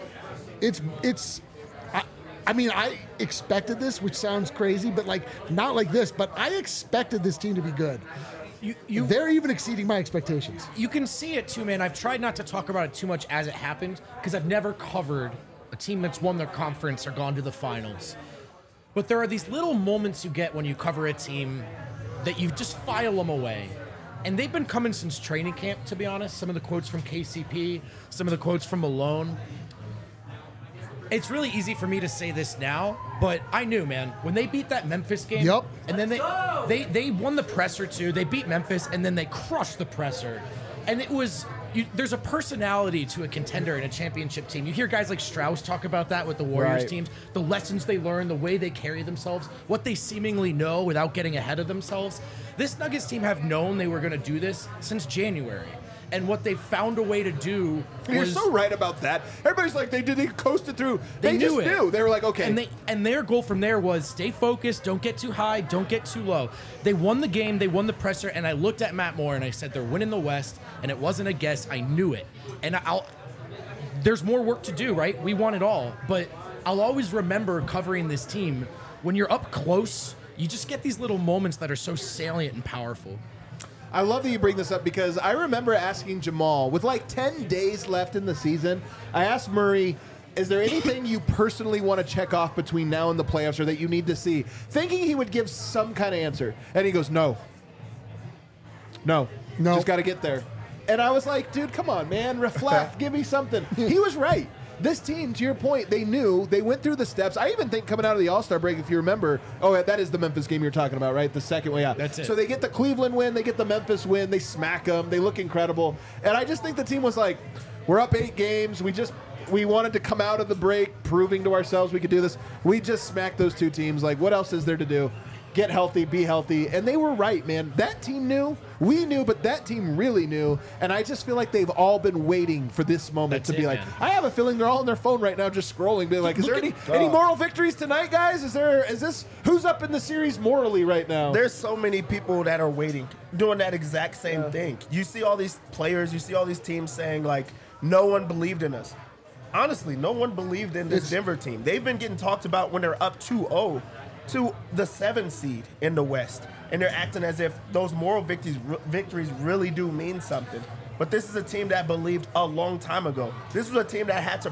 I mean, I expected this, which sounds crazy, but like, not like this, but I expected this team to be good. They're even exceeding my expectations. You can see it too, man. I've tried not to talk about it too much as it happened because I've never covered a team that's won their conference or gone to the finals. But there are these little moments you get when you cover a team that you just file them away. And they've been coming since training camp, to be honest. Some of the quotes from KCP, some of the quotes from Malone. It's really easy for me to say this now, but I knew, man, when they beat that Memphis game, Yep. and then they won the presser too. They beat Memphis, and then they crushed the presser. And it was, there's a personality to a contender in a championship team. You hear guys like Strauss talk about that with the Warriors Right. teams, the lessons they learn, the way they carry themselves, what they seemingly know without getting ahead of themselves. This Nuggets team have known they were going to do this since January. And what they found a way to do was... You're so right about that. Everybody's like, they coasted through. They knew just it. knew. They were like, okay. And their goal from there was stay focused, don't get too high, don't get too low. They won the game, they won the presser, and I looked at Matt Moore and I said, they're winning the West, and it wasn't a guess. I knew it. And there's more work to do, right? We want it all. But I'll always remember covering this team. When you're up close, you just get these little moments that are so salient and powerful. I love that you bring this up because I remember asking Jamal, with like 10 days left in the season, I asked Murray, is there anything you personally want to check off between now and the playoffs or that you need to see? Thinking he would give some kind of answer. And he goes, no. Just got to get there. And I was like, dude, come on, man. Reflect. Give me something. He was right. this team, to your point, they knew, they went through the steps. I even think coming out of the All-Star break, if you remember, that is the Memphis game you're talking about, right? The second way out. That's it. So they get the Cleveland win, they get the Memphis win, they smack them, they look incredible. And I just think the team was like, we're up 8 games, we wanted to come out of the break proving to ourselves we could do this. We just smacked those 2 teams. Like, what else is there to do? Get healthy, be healthy. And they were right, man. That team knew, we knew, but that team really knew. And I just feel like they've all been waiting for this moment to be like, I have a feeling they're all on their phone right now just scrolling, being like, is there any moral victories tonight, guys? Who's up in the series morally right now? There's so many people that are waiting, doing that exact same thing. You see all these players, you see all these teams saying, like, no one believed in us. Honestly, no one believed in this Denver team. They've been getting talked about when they're up 2-0 to the 7th seed in the West. And they're acting as if those moral victories really do mean something. But this is a team that believed a long time ago. This was a team that had to,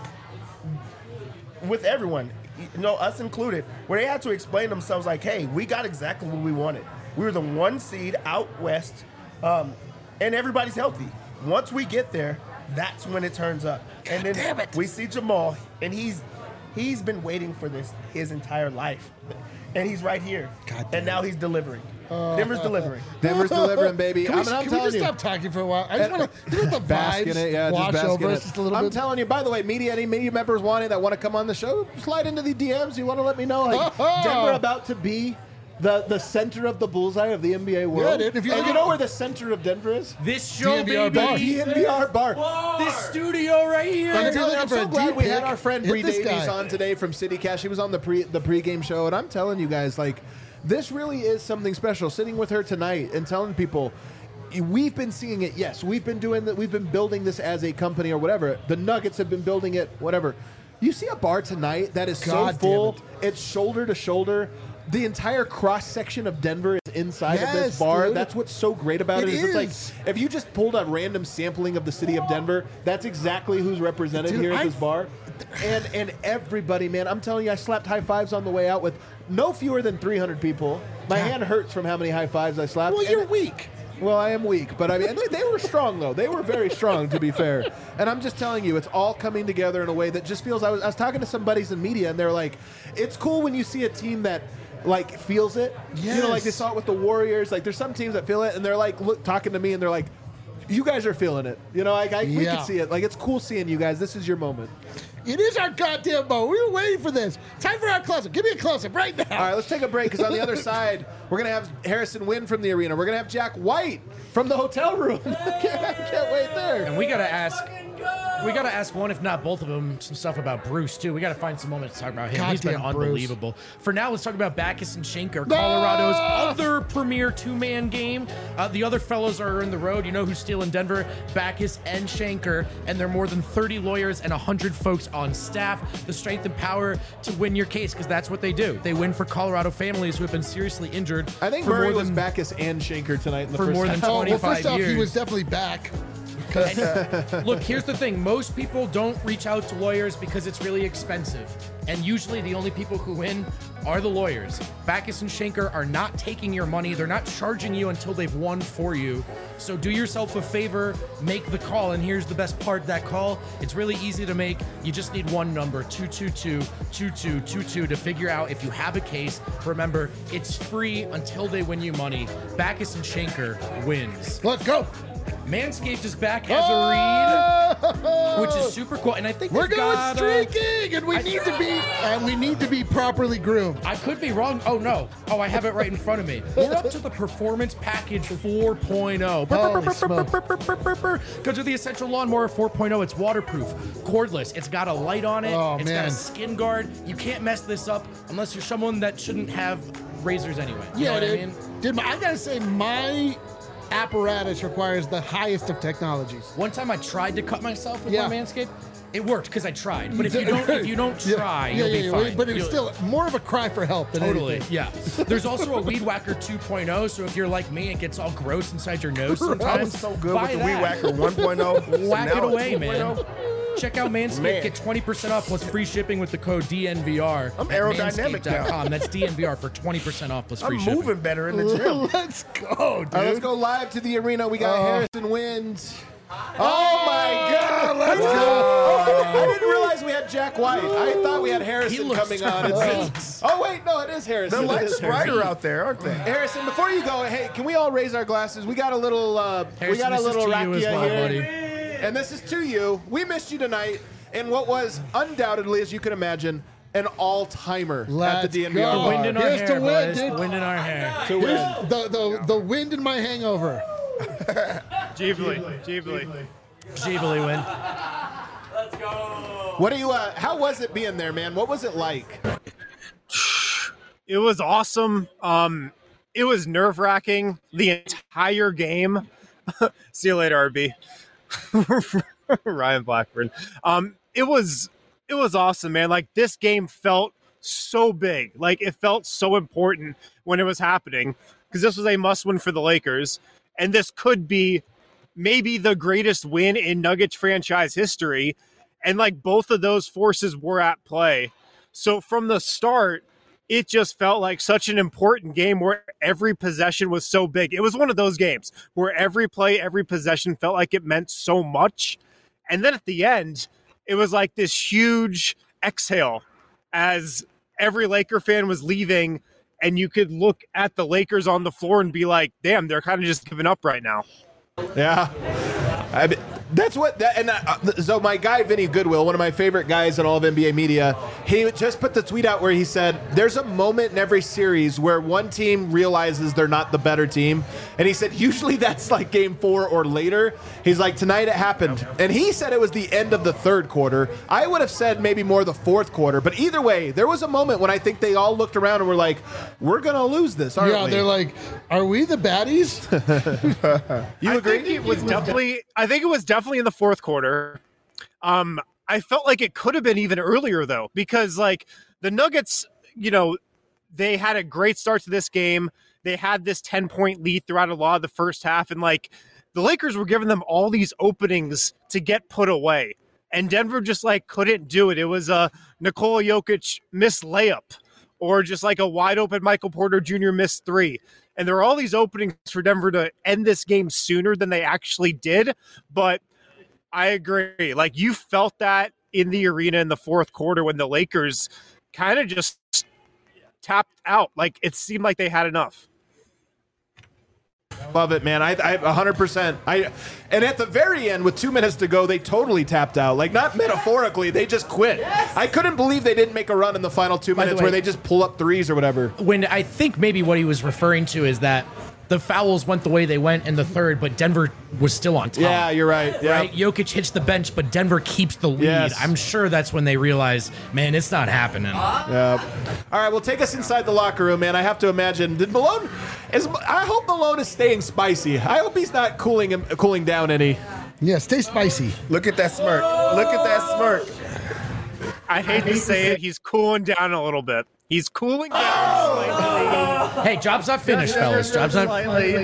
with everyone, us included, where they had to explain themselves like, hey, we got exactly what we wanted. We were the 1 seed out West, and everybody's healthy. Once we get there, that's when it turns up. And then we see Jamal, and he's been waiting for this his entire life. And he's right here. And now he's delivering. Denver's delivering. Denver's delivering, baby. Can we just stop talking for a while? I just want to let the vibes wash over us just a little bit. I'm telling you, by the way, any media members that want to come on the show, slide into the DMs. You want to let me know, like, Denver about to be the center of the bullseye of the NBA world. Yeah, dude. You know where the center of Denver is? This show, DNVR baby. DNVR bar. This studio right here. I'm so glad we had pick, our friend hit Bree this Davies guy. on today from City Cash. She was on the pregame show, and I'm telling you guys, like, this really is something special. Sitting with her tonight and telling people, we've been seeing it. Yes, we've been doing that. We've been building this as a company or whatever. The Nuggets have been building it, whatever. You see a bar tonight that is so full. It's shoulder to shoulder. The entire cross section of Denver is inside of this bar. Dude. That's what's so great about it. It's like, if you just pulled a random sampling of the city of Denver, that's exactly who's represented here at this bar. And everybody, man, I'm telling you, I slapped high fives on the way out with no fewer than 300 people. My hand hurts from how many high fives I slapped. Well, you're weak. Well, I am weak, but I mean, they were strong, though. They were very strong, to be fair. And I'm just telling you, it's all coming together in a way that just feels. I was talking to some buddies in media, and they're like, it's cool when you see a team that, like, feels it. Yes. You know, like they saw it with the Warriors. Like, there's some teams that feel it, and they're like talking to me, and they're like, you guys are feeling it. You know, like we can see it. Like, it's cool seeing you guys. This is your moment. It is our goddamn moment. We were waiting for this. Time for our close-up. Give me a close-up right now. All right, let's take a break, because on the other side, we're going to have Harrison Wynn from the arena. We're going to have Jack White from the hotel room. I can't wait there. And we got to ask one, if not both of them, some stuff about Bruce, too. We got to find some moments to talk about him. He's been Goddamn Bruce. unbelievable. For now, let's talk about Backus and Schenker, Colorado's other premier 2-man game. The other fellows are in the road. You know who's still in Denver? Backus and Schenker. And there are more than 30 lawyers and 100 folks on staff. The strength and power to win your case, because that's what they do. They win for Colorado families who have been seriously injured. I think Murray was Backus and Schenker tonight in the for first more than half. 25 first off, years. he was definitely back. Look, here's the thing. Most people don't reach out to lawyers because it's really expensive. And usually the only people who win are the lawyers. Backus and Schenker are not taking your money. They're not charging you until they've won for you. So do yourself a favor, make the call. And here's the best part of that call. It's really easy to make. You just need one number, 222-2222, to figure out if you have a case. Remember, it's free until they win you money. Backus and Schenker wins. Let's go. Manscaped is back as a read, which is super cool. And I think We're they've going got, streaking, and we need to be properly groomed. I could be wrong. Oh, no. Oh, I have it right in front of me. We're up to the Performance Package 4.0. Go to the Essential Lawnmower 4.0. It's waterproof, cordless. It's got a light on it. Oh, It's got man. a skin guard. You can't mess this up unless you're someone that shouldn't have razors anyway. You know what I mean? Dude, I gotta say, my apparatus requires the highest of technologies. One time I tried to cut myself with Yeah. my Manscaped. It worked because I tried. But if you don't try, you'll be fine. But it's You'll- still more of a cry for help than Totally, anything. yeah. There's also a Weed Whacker 2.0, so if you're like me, it gets all gross inside your nose I sometimes. was so good buy with the that. Weed Whacker 1.0. Whack Now it it's away, man. 2.0. Check out Manscaped. Man. Get 20% off plus free shipping with the code DNVR. I'm at aerodynamic now. manscaped.com. That's DNVR for 20% off plus free I'm shipping. moving better in the gym. Let's go, dude. All right, let's go live to the arena. We got Harrison Wind. Oh my God! Let's go! Oh, I didn't realize we had Jack White. I thought we had Harrison coming on. Oh wait, no, it is Harrison. The lights are brighter out there, aren't they? Harrison, before you go, hey, can we all raise our glasses? We got a little, rakia here, buddy. and this is to you. We missed you tonight in what was undoubtedly, as you can imagine, an all-timer at the DNVR go. bar. Wind in our Here's hair, to win, boys. dude. Wind in our hair. To win. The wind in my hangover. Ghibli. Ghibli win. What do you? How was it being there, man? What was it like? It was awesome. It was nerve-wracking the entire game. See you later, RB. Ryan Blackburn. It was awesome, man. Like, this game felt so big. Like, it felt so important when it was happening because this was a must-win for the Lakers, and this could be maybe the greatest win in Nuggets franchise history. And like, both of those forces were at play. So from the start, it just felt like such an important game where every possession was so big. It was one of those games where every play, every possession felt like it meant so much. And then at the end, it was like this huge exhale as every Laker fan was leaving, and you could look at the Lakers on the floor and be like, damn, they're kind of just giving up right now. Yeah. That's what that, and so my guy Vinny Goodwill, one of my favorite guys in all of NBA media, he just put the tweet out where he said there's a moment in every series where one team realizes they're not the better team, and he said usually that's like game 4 or later. He's like, tonight it happened, and he said it was the end of the third quarter. I would have said maybe more the fourth quarter, but either way, there was a moment when I think they all looked around and were like, we're gonna lose this, aren't we? Yeah, they're like, are we the baddies? You agree? I think it was definitely in the fourth quarter. I felt like it could have been even earlier, though, because like the Nuggets, they had a great start to this game. They had this 10-point lead throughout a lot of the first half, and like the Lakers were giving them all these openings to get put away, and Denver just like couldn't do it. It was a Nikola Jokic missed layup, or just like a wide open Michael Porter Jr. missed three. And there are all these openings for Denver to end this game sooner than they actually did. But I agree. Like, you felt that in the arena in the fourth quarter when the Lakers kind of just tapped out. Like, it seemed like they had enough. Love it, man. I 100%. And at the very end, with 2 minutes to go, they totally tapped out. Like, not metaphorically, they just quit. Yes. I couldn't believe they didn't make a run in the final 2 minutes where they just pull up threes or whatever. When I think maybe what he was referring to is that the fouls went the way they went in the third, but Denver was still on top. Yeah, you're right. Yeah. Right? Jokic hits the bench, but Denver keeps the lead. Yes. I'm sure that's when they realize, man, it's not happening. Yeah. All right, well, take us inside the locker room, man. I have to imagine. I hope Malone is staying spicy. I hope he's not cooling down any. Yeah, stay spicy. Look at that smirk. Look at that smirk. I hate to say it, he's cooling down a little bit. He's cooling down slightly. Hey, job's not finished, fellas. Job's not.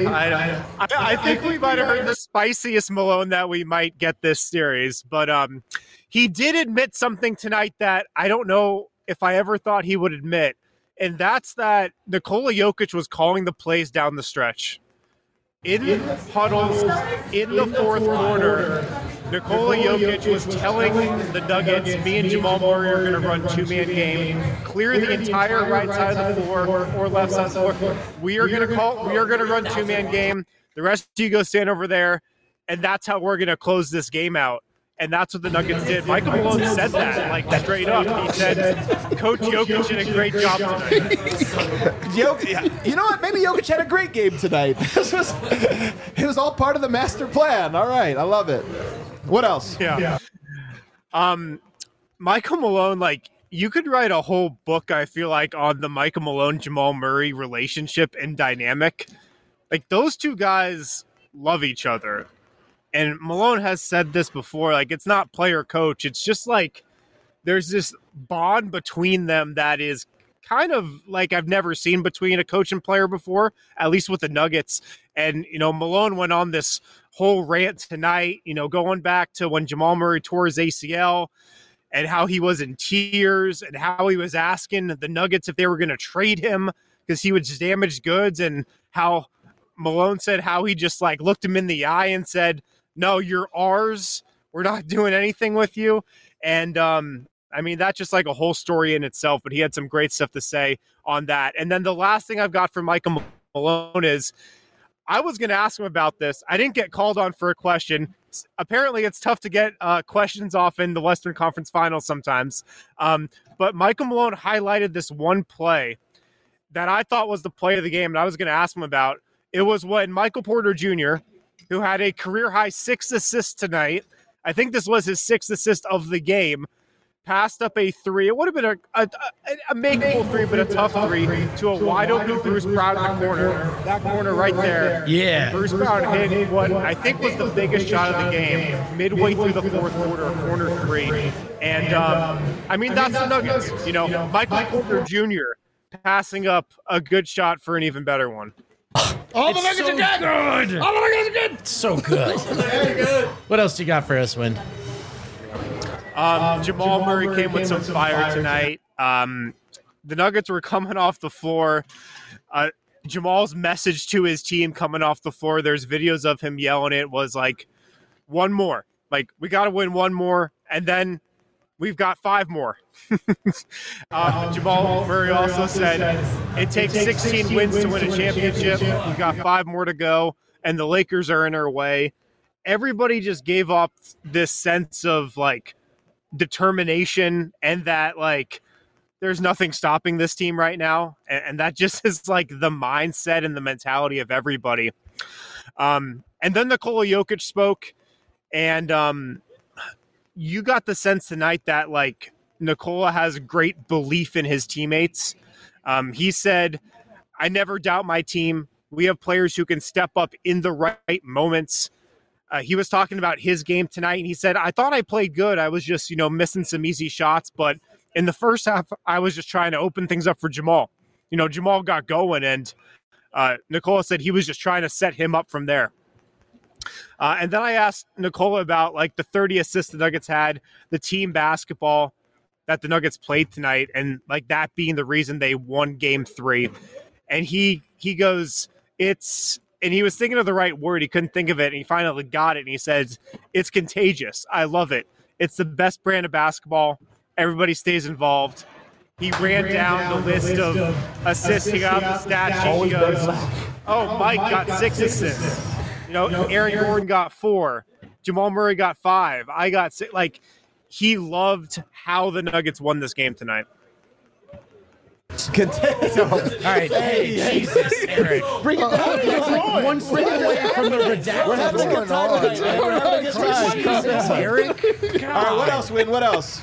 I think we might have heard the spiciest Malone that we might get this series, but he did admit something tonight that I don't know if I ever thought he would admit, and that's that Nikola Jokic was calling the plays down the stretch. In huddles in the fourth quarter, Nikola Jokic was telling the Nuggets, me and Jamal Murray are going to run two-man game, clear the entire right side of the floor or left side of the floor. We are going to run two-man game. The rest of you go stand over there, and that's how we're going to close this game out. And that's what the Nuggets did. Michael Malone said that, like, straight up. He said, Coach Jokic did a great job tonight. You know what? Maybe Jokic had a great game tonight. It was all part of the master plan. All right. I love it. What else? Yeah. Michael Malone, like, you could write a whole book, I feel like, on the Michael Malone-Jamal Murray relationship and dynamic. Like, those two guys love each other. And Malone has said this before, like, it's not player coach. It's just like there's this bond between them that is kind of like I've never seen between a coach and player before, at least with the Nuggets. And, Malone went on this whole rant tonight, going back to when Jamal Murray tore his ACL and how he was in tears and how he was asking the Nuggets if they were going to trade him because he was damaged goods, and how Malone said how he just like looked him in the eye and said, no, you're ours. We're not doing anything with you. And I mean, that's just like a whole story in itself, but he had some great stuff to say on that. And then the last thing I've got from Michael Malone is, I was going to ask him about this. I didn't get called on for a question. Apparently, it's tough to get questions off in the Western Conference Finals sometimes. But Michael Malone highlighted this one play that I thought was the play of the game, and I was going to ask him about. It was when Michael Porter Jr., who had a career-high 6 assists tonight, I think this was his 6th assist of the game, passed up a three. It would have been a makeable three, but a tough three to a wide-open Bruce Brown in the corner. That corner right there. Yeah. Bruce Brown hit what I think was the biggest shot of the game midway through the fourth quarter, a corner three. And, I mean, that's the Nuggets. You know, Michael Porter Jr. passing up a good shot for an even better one. All the Nuggets so are good. good. All the Nuggets are good. So good. What else do you got for us, Win? Jamal Murray came with some fire tonight. The Nuggets were coming off the floor. Jamal's message to his team coming off the floor, there's videos of him yelling it, was like, one more. Like, we got to win one more, and then we've got 5 more. Jamal Murray also said, it takes 16 wins to win a championship. We've got 5 more to go, and the Lakers are in our way. Everybody just gave up this sense of, like, determination and that, like, there's nothing stopping this team right now. And that just is, like, the mindset and the mentality of everybody. And then Nikola Jokic spoke, and you got the sense tonight that, like, Nikola has great belief in his teammates. He said, I never doubt my team. We have players who can step up in the right moments. He was talking about his game tonight, and he said, I thought I played good. I was just, missing some easy shots. But in the first half, I was just trying to open things up for Jamal. Jamal got going, and Nikola said he was just trying to set him up from there. And then I asked Nikola about, like, the 30 assists the Nuggets had, the team basketball that the Nuggets played tonight, and, like, that being the reason they won Game 3. And he goes, and he was thinking of the right word. He couldn't think of it, and he finally got it, and he says, it's contagious. I love it. It's the best brand of basketball. Everybody stays involved. He ran down the list of assists. He got off the stat sheet. He goes, Mike got 6 assists. Aaron Gordon got 4. Jamal Murray got 5. I got 6. Like, he loved how the Nuggets won this game tonight. All right, hey, Jesus, Eric. Bring it down. It's like one step away from the redacted. We're having a good time tonight, man. We're having a good time. Jesus, Eric. All right, what else, Win? What else?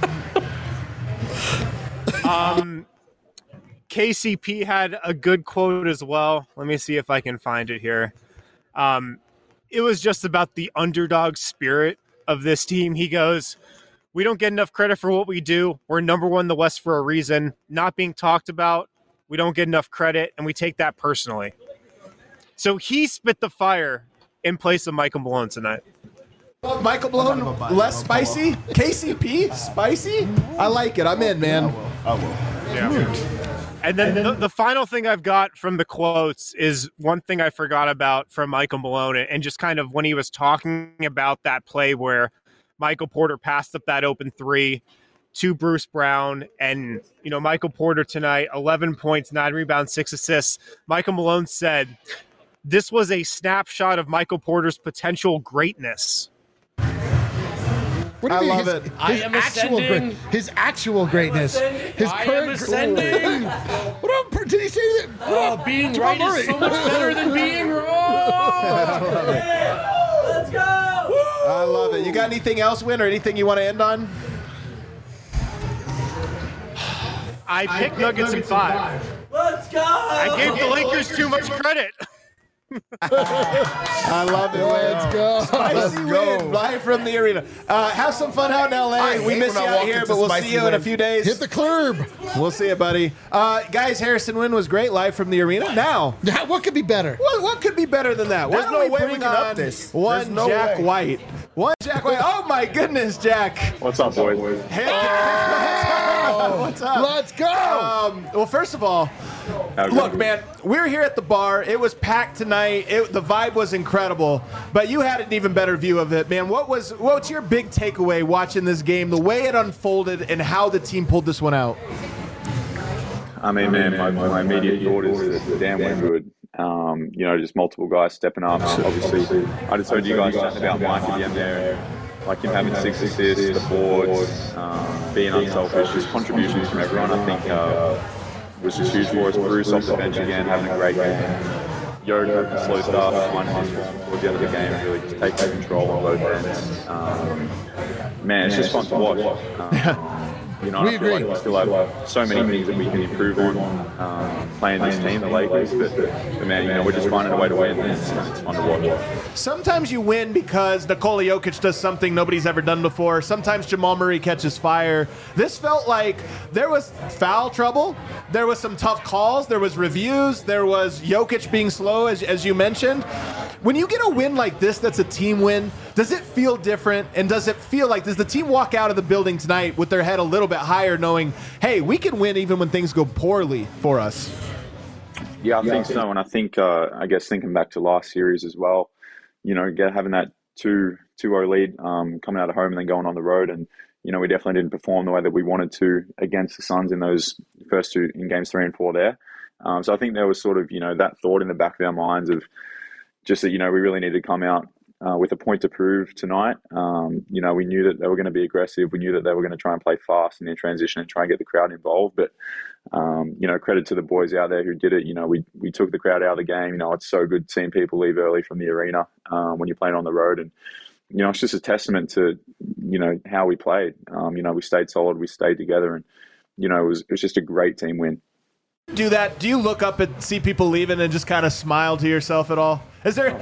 KCP had a good quote as well. Let me see if I can find it here. It was just about the underdog spirit of this team. He goes, we don't get enough credit for what we do. We're number 1 in the West for a reason. Not being talked about. We don't get enough credit, and we take that personally. So he spit the fire in place of Michael Malone tonight. Michael Malone, less spicy? KCP, spicy? I like it. I'm in, man. I will. Yeah. And then the final thing I've got from the quotes is one thing I forgot about from Michael Malone, and just kind of when he was talking about that play where Michael Porter passed up that open 3 to Bruce Brown. And, Michael Porter tonight, 11 points, 9 rebounds, 6 assists. Michael Malone said, this was a snapshot of Michael Porter's potential greatness. What do you mean? love it. I am ascending. His actual greatness. His I am current ascending. What up? Did he say that? Being Jamal right Murray. is so much better than being wrong. Let's go! I love it. You got anything else, Win, or anything you want to end on? I picked Nuggets in 5. Let's go! I gave the Lakers too much credit. I love it. Let's go. Spicy Win, live from the arena. Have some fun out in LA. We miss you out here, but we'll see you in a few days. Hit the curb. We'll see you, buddy. Guys, Harrison Wynn was great live from the arena. Now, What could be better? what could be better than that? There's Why no don't way we bring can up on this. One There's no Jack way. White. One Jack White. Oh my goodness, Jack. What's up, boys? Heck, What's up? Let's go. Well, first of all, look, man, we're here at the bar. It was packed tonight. The vibe was incredible, but you had an even better view of it, man. What's your big takeaway watching this game, the way it unfolded, and how the team pulled this one out? I mean, man, my immediate thought is that Dan Wingwood, just multiple guys stepping up. Obviously, I just heard you guys chatting about Mike at the end there. Like him having 6 assists, the boards, being unselfish, his contributions from everyone, I think, was just huge for us. Bruce off the bench again, having a great game. Yoda can slow stuff, finding his towards the end of the game and really just take control on both ends. Man, it's just fun to watch. I feel like we still have so many things that we can improve on playing this team, the Lakers. But man, we're just finding a way to win, and it's fun to watch. Sometimes you win because Nikola Jokic does something nobody's ever done before. Sometimes Jamal Murray catches fire. This felt like there was foul trouble. There was some tough calls. There was reviews. There was Jokic being slow, as you mentioned. When you get a win like this that's a team win, does it feel different? And does the team walk out of the building tonight with their head a little bit higher, knowing, hey, we can win even when things go poorly for us? Yeah, I think so. And I think, I guess thinking back to last series as well, having that 2-0 lead coming out of home and then going on the road. And, we definitely didn't perform the way that we wanted to against the Suns in those first two, in games 3 and 4 there. So I think there was sort of, that thought in the back of our minds of just that, we really needed to come out with a point to prove tonight. We knew that they were going to be aggressive. We knew that they were going to try and play fast and in transition and try and get the crowd involved. But, credit to the boys out there who did it. We took the crowd out of the game. It's so good seeing people leave early from the arena when you're playing on the road. And, it's just a testament to, how we played. We stayed solid. We stayed together. And, it was just a great team win. Do that? Do you look up and see people leaving and just kind of smile to yourself at all? Is there...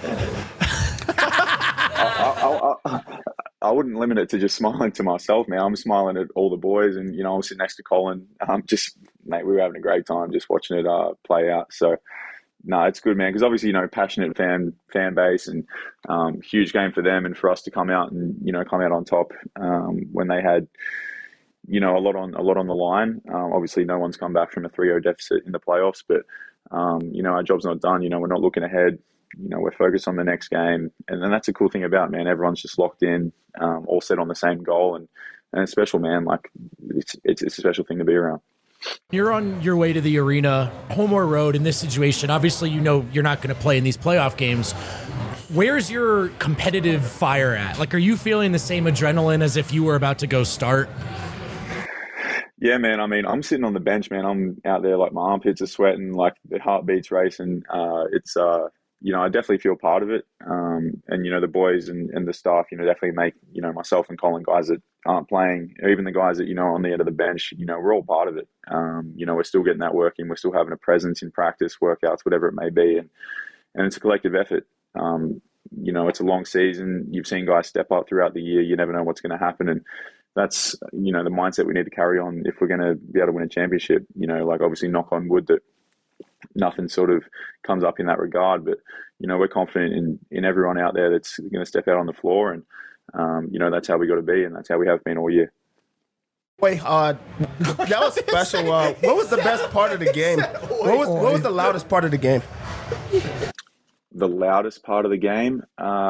I wouldn't limit it to just smiling to myself, man. I'm smiling at all the boys, and I'm sitting next to Colin. Mate, we were having a great time just watching it play out. So, no, it's good, man. Because obviously, passionate fan base, and huge game for them, and for us to come out and come out on top when they had a lot on the line. Obviously, no one's come back from a 3-0 deficit in the playoffs, but our job's not done. We're not looking ahead. We're focused on the next game. And then that's a cool thing about, man, everyone's just locked in, all set on the same goal. And it's special, man. Like, it's a special thing to be around. You're on your way to the arena, home or road in this situation. Obviously, you're not going to play in these playoff games. Where's your competitive fire at? Like, are you feeling the same adrenaline as if you were about to go start? Yeah, man. I mean, I'm sitting on the bench, man. I'm out there, like, my armpits are sweating, like, the heartbeat's racing. I definitely feel part of it. And, the boys and the staff, definitely make, myself and Colin, guys that aren't playing, even the guys that, on the end of the bench, we're all part of it. We're still getting that work in. We're still having a presence in practice, workouts, whatever it may be. And it's a collective effort. It's a long season. You've seen guys step up throughout the year. You never know what's going to happen. And that's, the mindset we need to carry on if we're going to be able to win a championship. Obviously knock on wood that nothing sort of comes up in that regard, but we're confident in everyone out there that's going to step out on the floor, and that's how we got to be, and that's how we have been all year. Wait, that was special. What was the best part of the game? What was the loudest part of the game? The loudest part of the game?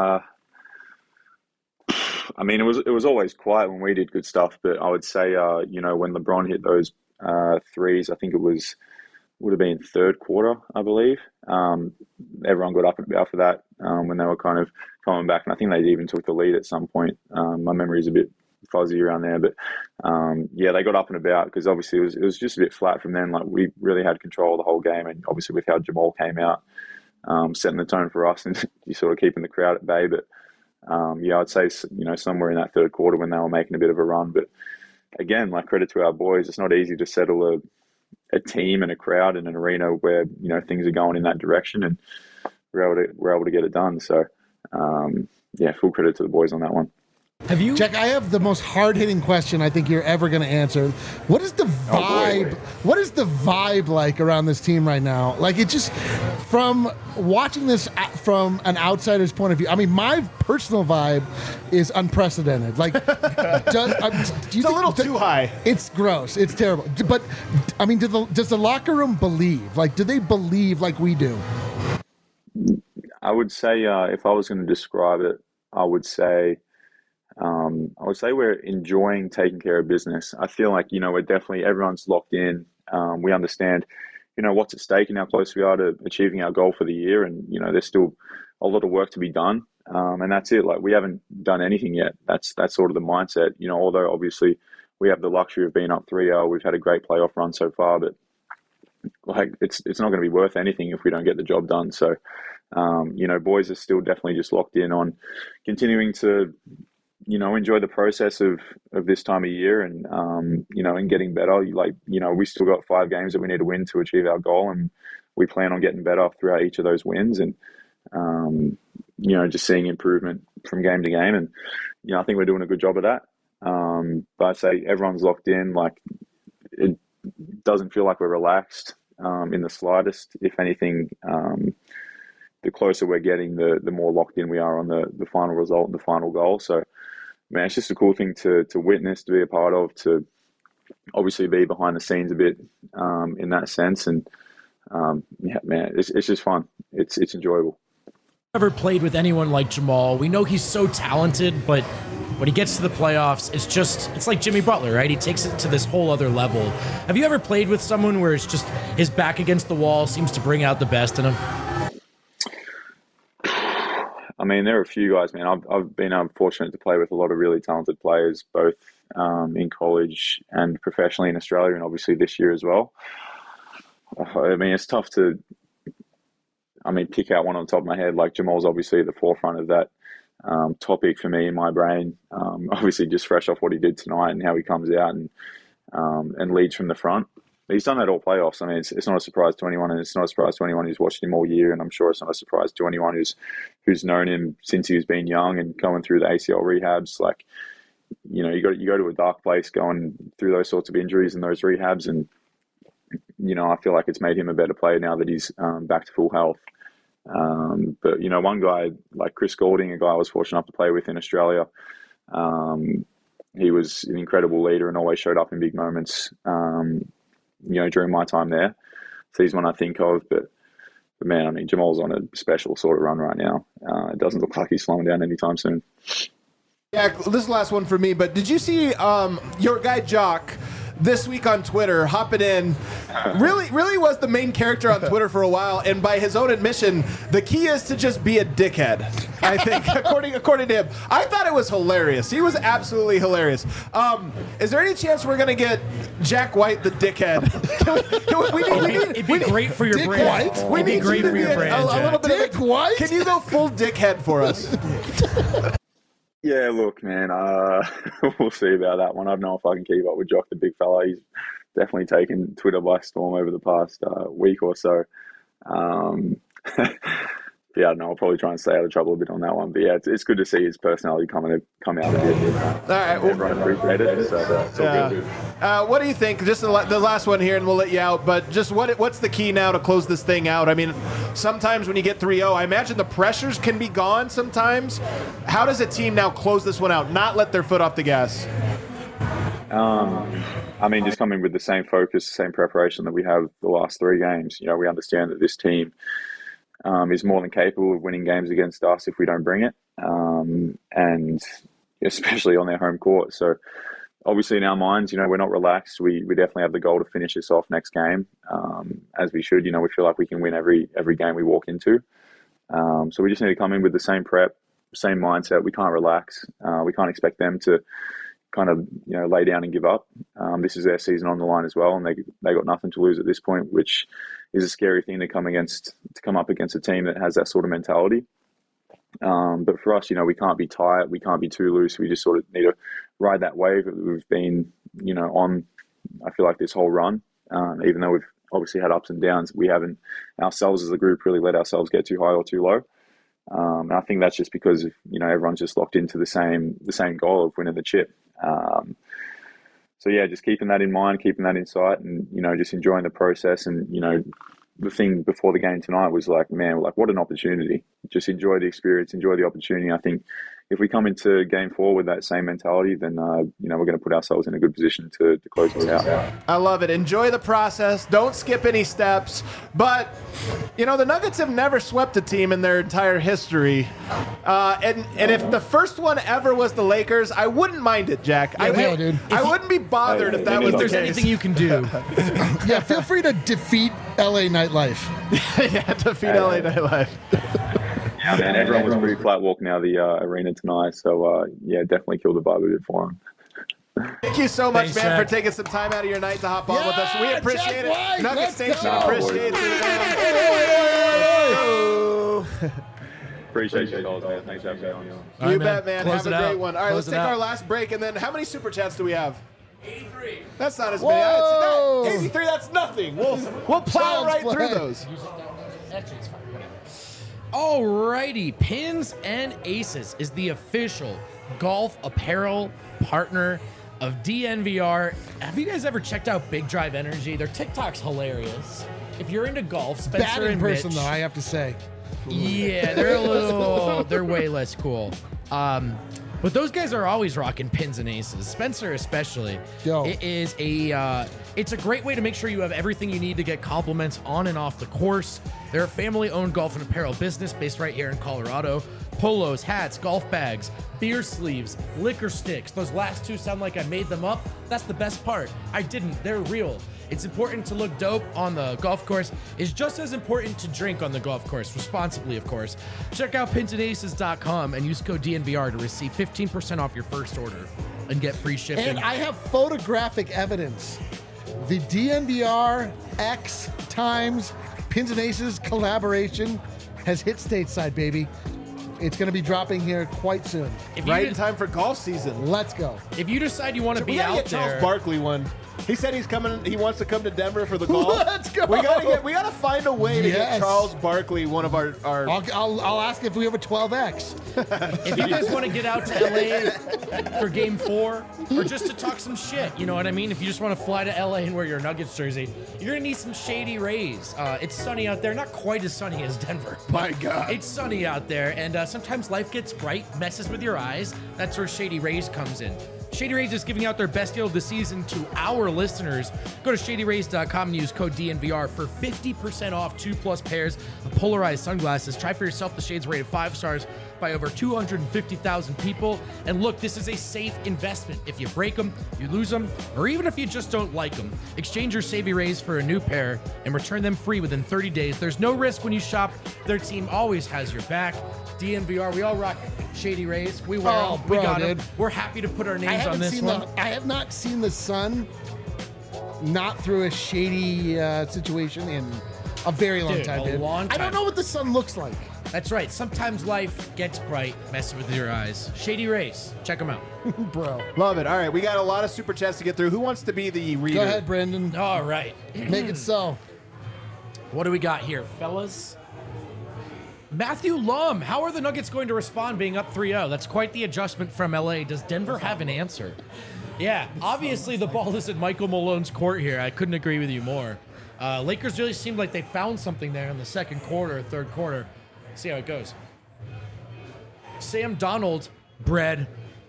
I mean, it was always quiet when we did good stuff, but I would say, when LeBron hit those threes, I think it would have been third quarter, I believe. Everyone got up and about for that when they were kind of coming back, and I think they even took the lead at some point. My memory is a bit fuzzy around there, but they got up and about because obviously it was just a bit flat from then. Like, we really had control of the whole game, and obviously with how Jamal came out, setting the tone for us, and you sort of keeping the crowd at bay. But I'd say somewhere in that third quarter when they were making a bit of a run. But again, like, credit to our boys, it's not easy to settle a team and a crowd in an arena where things are going in that direction, and we're able to get it done. So full credit to the boys on that one. Have you? Jack, I have the most hard-hitting question I think you're ever going to answer. What is the vibe? What is the vibe like around this team right now? Like, it just, from watching this from an outsider's point of view, I mean, my personal vibe is unprecedented. Like, It's a little too high. It's gross. It's terrible. But I mean, does the locker room believe? Like, do they believe like we do? I would say if I was going to describe it, I would say we're enjoying taking care of business. I feel like, we're definitely, everyone's locked in. We understand, what's at stake and how close we are to achieving our goal for the year. And, there's still a lot of work to be done. And that's it. Like, we haven't done anything yet. That's sort of the mindset, although obviously we have the luxury of being up 3-0. We've had a great playoff run so far, but like, it's not going to be worth anything if we don't get the job done. So, boys are still definitely just locked in on continuing to, enjoy the process of this time of year and, and getting better. We still got 5 games that we need to win to achieve our goal, and we plan on getting better throughout each of those wins and, just seeing improvement from game to game. And, I think we're doing a good job of that. But I'd say everyone's locked in. Like, it doesn't feel like we're relaxed in the slightest. If anything, the closer we're getting, the more locked in we are on the final result and the final goal. So, man, it's just a cool thing to witness, to be a part of, to obviously be behind the scenes a bit in that sense. And man, it's just fun. It's enjoyable. Ever played with anyone like Jamal? We know he's so talented, but when he gets to the playoffs, it's like Jimmy Butler, right? He takes it to this whole other level. Have you ever played with someone where it's just his back against the wall seems to bring out the best in him? I mean, there are a few guys, man. I've been fortunate to play with a lot of really talented players, both in college and professionally in Australia, and obviously this year as well. I mean, it's tough to, pick out one on the top of my head. Like, Jamal's obviously at the forefront of that topic for me in my brain. Obviously, just fresh off what he did tonight and how he comes out and leads from the front. But he's done that all playoffs. I mean, it's not a surprise to anyone, and it's not a surprise to anyone who's watched him all year. And I'm sure it's not a surprise to anyone who's known him since he's been young and going through the ACL rehabs. Like, you go to a dark place going through those sorts of injuries and those rehabs, and I feel like it's made him a better player now that he's back to full health. But one guy like Chris Goulding, a guy I was fortunate enough to play with in Australia, he was an incredible leader and always showed up in big moments. During my time there. So he's one I think of, but man, Jamal's on a special sort of run right now. It doesn't look like he's slowing down anytime soon. Yeah, this is the last one for me, but did you see your guy Jock this week on Twitter hopping in? Really was the main character on Twitter for a while, and by his own admission, the key is to just be a dickhead, I think, according to him. I thought it was hilarious. He was absolutely hilarious. Is there any chance we're going to get Jack White the dickhead? It'd be great for your brand. We need great you to for be your brand, a little bit Dick White? Can you go full dickhead for us? Yeah, look, man, we'll see about that one. I don't know if I can keep up with Jock, the big fella. He's definitely taken Twitter by storm over the past week or so. Yeah, I don't know. I'll probably try and stay out of trouble a bit on that one. But yeah, it's good to see his personality come out a bit. All right, everyone appreciated it, so it's all good. What do you think? Just the last one here, and we'll let you out. But just what's the key now to close this thing out? I mean, sometimes when you get 3-0, I imagine the pressures can be gone sometimes. How does a team now close this one out, not let their foot off the gas? Just coming with the same focus, same preparation that we have the last 3 games. We understand that this team is more than capable of winning games against us if we don't bring it, and especially on their home court. So obviously in our minds, we're not relaxed. We definitely have the goal to finish this off next game, as we should. We feel like we can win every game we walk into. So we just need to come in with the same prep, same mindset. We can't relax. We can't expect them to kind of lay down and give up. This is their season on the line as well, and they got nothing to lose at this point, which is a scary thing to come up against a team that has that sort of mentality. But for us, we can't be tight, we can't be too loose. We just sort of need to ride that wave that we've been, on. I feel like this whole run, even though we've obviously had ups and downs, we haven't ourselves as a group really let ourselves get too high or too low. And I think that's just because everyone's just locked into the same goal of winning the chip. So yeah, just keeping that in mind, keeping that in sight, and just enjoying the process. And the thing before the game tonight was like, man, what an opportunity! Just enjoy the experience, enjoy the opportunity. I think if we come into game 4 with that same mentality, then we're going to put ourselves in a good position to close this out. I love it. Enjoy the process. Don't skip any steps. But the Nuggets have never swept a team in their entire history. And if the first one ever was the Lakers, I wouldn't mind it, Jack. I wouldn't be bothered if that was the case. If there's anything you can do. Yeah, feel free to defeat LA Nightlife. Yeah, defeat LA Nightlife. Yeah, man, everyone was pretty flat walking out of the arena tonight. So, definitely killed the vibe a bit for them. Thank you so much, Thanks, man, Jack. for taking some time out of your night to hop on with us. We appreciate Jack White, it. Nugget let's Station go. appreciates it. Appreciate you guys, man. Thanks for having me on. You All right, bet, man. Close Have it a great out. one. All right, Close let's it take out. our last break, and then how many super chats do we have? 83. That's not as many. Whoa. 83, that's nothing. We'll plow Child's right play. through those. Alrighty, Pins and Aces is the official golf apparel partner of DNVR. Have you guys ever checked out Big Drive Energy? Their TikTok's hilarious. If you're into golf, Spencer Bad in and person, Mitch, though, I have to say. yeah, they're way less cool. But those guys are always rocking Pins and Aces, Spencer especially. Yo. It is it's a great way to make sure you have everything you need to get compliments on and off the course. They're a family-owned golf and apparel business based right here in Colorado. Polos, hats, golf bags, beer sleeves, liquor sticks. Those last two sound like I made them up. That's the best part. I didn't. They're real. It's important to look dope on the golf course. It's just as important to drink on the golf course, responsibly, of course. Check out pinsandaces.com and use code DNVR to receive 15% off your first order and get free shipping. And I have photographic evidence. The DNVR X times Pins and Aces collaboration has hit stateside, baby. It's going to be dropping here quite soon. If you Right in de- time for golf season. Let's go. If you decide you want to We be gotta out get Charles there, Barkley one. He said he's coming. He wants to come to Denver for the golf. Let's go. We gotta find a way to get Yes. Charles Barkley one of our I'll ask if we have a 12X. if you guys want to get out to LA for Game 4 or just to talk some shit, you know what I mean? If you just want to fly to LA and wear your Nuggets jersey, you're gonna need some Shady Rays. It's sunny out there, not quite as sunny as Denver. but My God. it's sunny out there, and sometimes life gets bright, messes with your eyes. That's where Shady Rays comes in. Shady Rays is giving out their best deal of the season to our listeners. Go to shadyrays.com and use code DNVR for 50% off 2+ pairs of polarized sunglasses. Try for yourself. The shades rated 5 stars by over 250,000 people. And look, this is a safe investment. If you break them, you lose them, or even if you just don't like them, exchange your Savvy Rays for a new pair and return them free within 30 days. There's no risk when you shop. Their team always has your back. DNVR, we all rock Shady Rays. We wear Oh, them. We bro, got them. dude. We're happy to put our I names on this one. I have not seen the sun not through a shady situation in a very long Dude, time, a dude. long I don't time. know what the sun looks like. That's right. Sometimes life gets bright, messes with your eyes. Shady Rays. Check them out. Bro. Love it. All right, we got a lot of super chats to get through. Who wants to be the reader? Go ahead, Brandon. All right. Make it so. What do we got here, fellas? Matthew Lum. How are the Nuggets going to respond being up 3-0? That's quite the adjustment from LA. Does Denver have an answer? Yeah, obviously the ball is in Michael Malone's court here. I couldn't agree with you more. Lakers really seemed like they found something there in the second quarter, third quarter. See how it goes. Sam Donald, bread.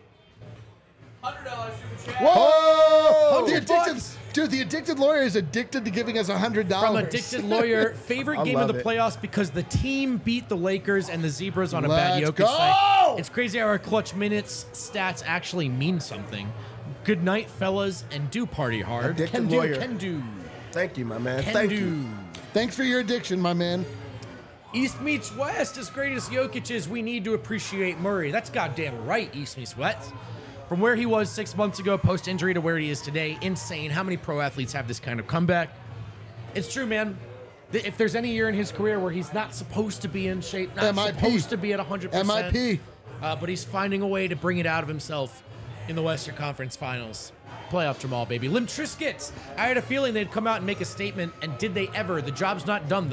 $100 super chat. Whoa! The $100 addicted, bucks. dude, the addicted lawyer is addicted to giving us $100. From Addicted Lawyer, favorite I game of love the it. playoffs because the team beat the Lakers and the Zebras on a bad Let's Jokic go! night. It's crazy how our clutch minutes stats actually mean something. Good night, fellas, and do party hard. Addicted Lawyer. Can do. Thank you, my man. Can Thank do. you. Thanks for your addiction, my man. East meets West. As great as Jokic is, we need to appreciate Murray. That's goddamn right, East meets West. From where he was 6 months ago, post-injury, to where he is today, insane. How many pro athletes have this kind of comeback? It's true, man. If there's any year in his career where he's not supposed to be in shape, not MIP. supposed to be at 100%, MIP. But he's finding a way to bring it out of himself in the Western Conference Finals. Playoff Jamal, baby. Lim Triscuits. I had a feeling they'd come out and make a statement, and did they ever? The job's not done, though.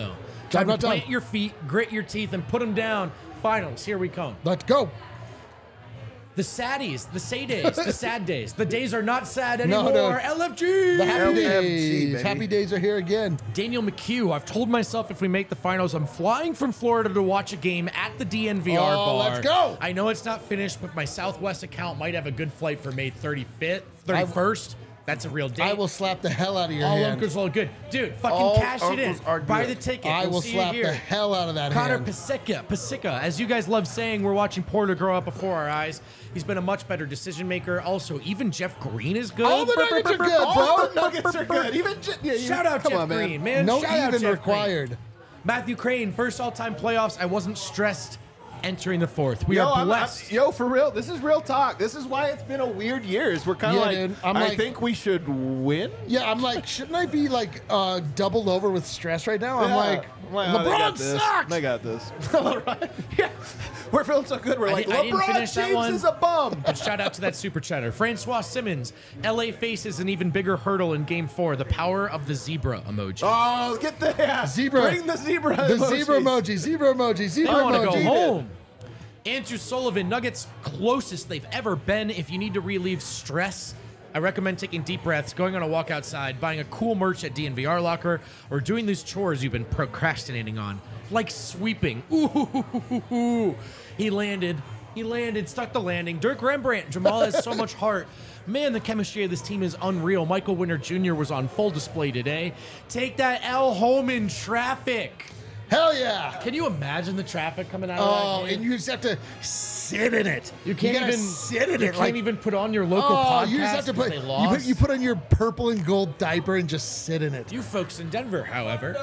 Time to not done. plant your feet, grit your teeth, and put them down. Finals, here we come. Let's go. The saddies, the say days, the sad days. The days are not sad No, anymore. no. LFG! The happy LFG, days. baby. Happy days are here again. Daniel McHugh, I've told myself if we make the finals, I'm flying from Florida to watch a game at the DNVR bar. Let's go. I know it's not finished, but my Southwest account might have a good flight for May 31st. That's a real date. I will slap the hell out of your All hand. uncles are good. Dude, fucking All cash it in. uncles are Buy good. the ticket. I We'll will see slap you the here. hell out of that Connor hand. Pasica, as you guys love saying, we're watching Porter grow up before our eyes. He's been a much better decision maker. Also, even Jeff Green is good. All the Nuggets are good, All bro. the Nuggets are good. Even Shout out come Jeff on, man. Green, man. No Shout out even Jeff required. Green. Matthew Crane, first all-time playoffs. I wasn't stressed entering the fourth. We Yo, are I'm blessed. for real. This is real talk. This is why it's been a weird years. We're kind of Yeah, like, dude, I'm I like- think we should win. Yeah, I'm like, shouldn't I be like doubled over with stress right now? I'm Yeah. like, oh, they got LeBron this. sucks. They got this. Right? Yeah. We're feeling so good. We're I like, didn't LeBron finish that James one. is a bum. But shout out to that super chatter. Francois Simmons, LA faces an even bigger hurdle in game 4. The power of the zebra emoji. Oh, get the Zebra. Bring the zebra. The emojis. zebra emoji, zebra emoji, zebra I want to go emoji. home. Andrew Sullivan, Nuggets closest they've ever been. If you need to relieve stress, I recommend taking deep breaths, going on a walk outside, buying a cool merch at DNVR Locker, or doing those chores you've been procrastinating on, like sweeping. Ooh, he landed, stuck the landing. Dirk Rembrandt, Jamal has so much heart. Man, the chemistry of this team is unreal. Michael Winter Jr. was on full display today. Take that L home in traffic. Hell yeah. Can you imagine the traffic coming out of Oh, that game? and you just have to sit in it. You can't gotta even sit in you it. can't even put on your local podcast. You just have to 'cause put they lost. you put on your purple and gold diaper and just sit in it. You folks in Denver, however,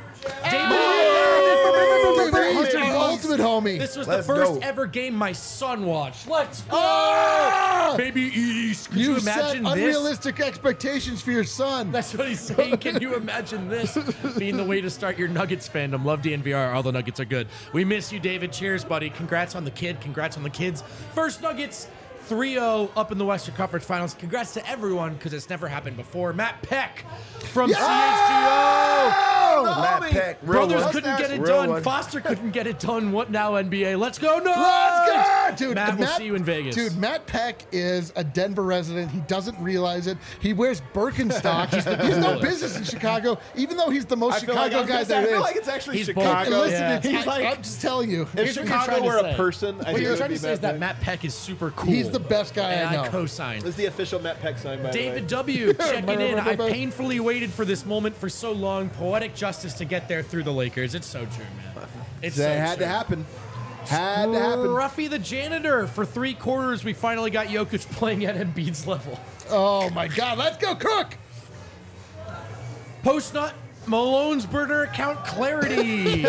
He's the ultimate homie. this was Let's the first go. ever game my son watched. Let's go, Ah! baby East. Could you You've set imagine this? unrealistic expectations for your son. That's what he's saying. Can you imagine this being the way to start your Nuggets fandom? Love DNVR. All the Nuggets are good. We miss you, David. Cheers, buddy. Congrats on the kid. Congrats on the kids. First Nuggets 3-0 up in the Western Conference Finals. Congrats to everyone because it's never happened before. Matt Peck from CHGO. Matt Peck, real Brothers one. couldn't get it Real done. one. Foster couldn't get it done. What now, NBA? Let's go, no! Let's go! Dude, Matt, we'll see you in Vegas. Dude, Matt Peck is a Denver resident. He doesn't realize it. He wears Birkenstock. He has no business in Chicago, even though he's the most I feel like, Chicago guy I there feel is. like it's actually He's Chicago. bold. Listen, Yeah. it's, He's like, I'm just telling you. if Here's what you're Chicago trying to were a say. person, I What think you're it would trying be to say is that Peck. Matt Peck is super cool. He's the best guy and I know. co-signed. This is the official Matt Peck sign, by David the way. W. checking in. I Remember? painfully waited for this moment for so long. Poetic justice to get there through the Lakers. It's so true, man. It's so It had true. to happen. Had to happen. Ruffy the janitor. For 3 quarters, we finally got Jokic playing at Embiid's level. Oh my God, let's go, Cook! Post-nut Malone's burner account clarity.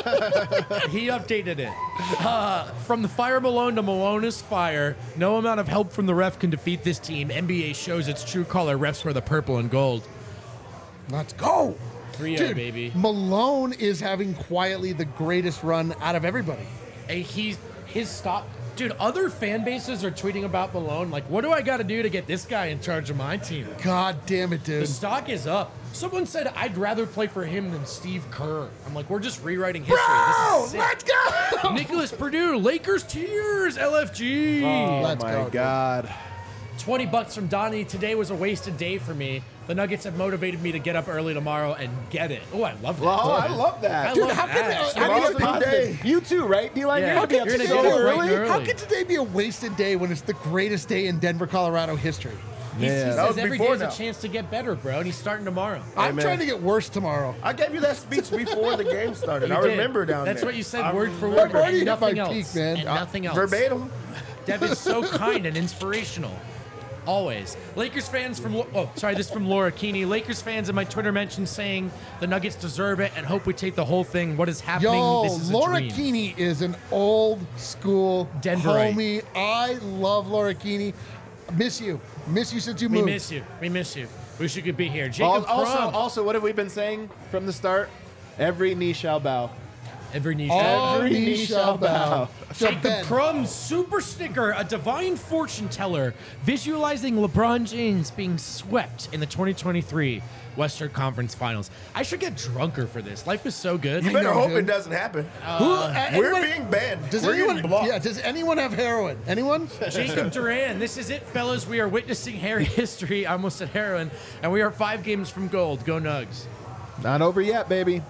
He updated it. From the fire Malone to Malone is fire. No amount of help from the ref can defeat this team. NBA shows its true color. Refs wear the purple and gold. Let's go! 3-0, Dude, baby. Malone is having quietly the greatest run out of everybody. Hey, his stop. Dude, other fan bases are tweeting about Malone. Like, what do I got to do to get this guy in charge of my team? God damn it, The dude. stock is up. Someone said I'd rather play for him than Steve Kerr. I'm like, we're just rewriting history. This is sick. Let's go! Nicholas Purdue, Lakers tears, LFG. Oh Let's my go, dude. God. $20 from Donnie. Today was a wasted day for me. The Nuggets have motivated me to get up early tomorrow and get it. Oh, I love that. Oh, I love that. I Dude, love how that. can how tomorrow's can a today- You too, right, D-Line? Yeah. You're going to be up You're gonna so get up bright early? and early. How can today be a wasted day when it's the greatest day in Denver, Colorado history? He Man. That says was every before day's a now. chance to get better, bro, and he's starting tomorrow. I'm man. trying to get worse tomorrow. I gave you that speech before the game started. You I did. remember down That's there. what you said, I word for remember. word. I've already And hit my nothing else. peak, man. And nothing else. Verbatim. Dev is so kind and inspirational. Always. Lakers fans from... this is from Laura Keeney. Lakers fans in my Twitter mentioned saying the Nuggets deserve it and hope we take the whole thing. What is happening? Yo, This is a Laura dream. Keeney is an old school Denverite. homie. I love Laura Keeney. Miss you. Miss you since you We moved. miss you. We miss you. Wish you could be here. Jacob Crum. Also, what have we been saying from the start? Every knee shall bow. Every knee All knee shall bow. So Jacob Ben, Crumb's Super Sticker, a divine fortune teller, visualizing LeBron James being swept in the 2023 Western Conference Finals. I should get drunker for this. Life is so good. You better know, hope dude. it doesn't happen. We're We're being banned. Does We're anyone? getting blocked. Yeah. Does anyone have heroin? Anyone? Jacob Duran, this is it, fellas. We are witnessing Harry history. I almost said heroin, and we are 5 games from gold. Go Nugs. Not over yet, baby.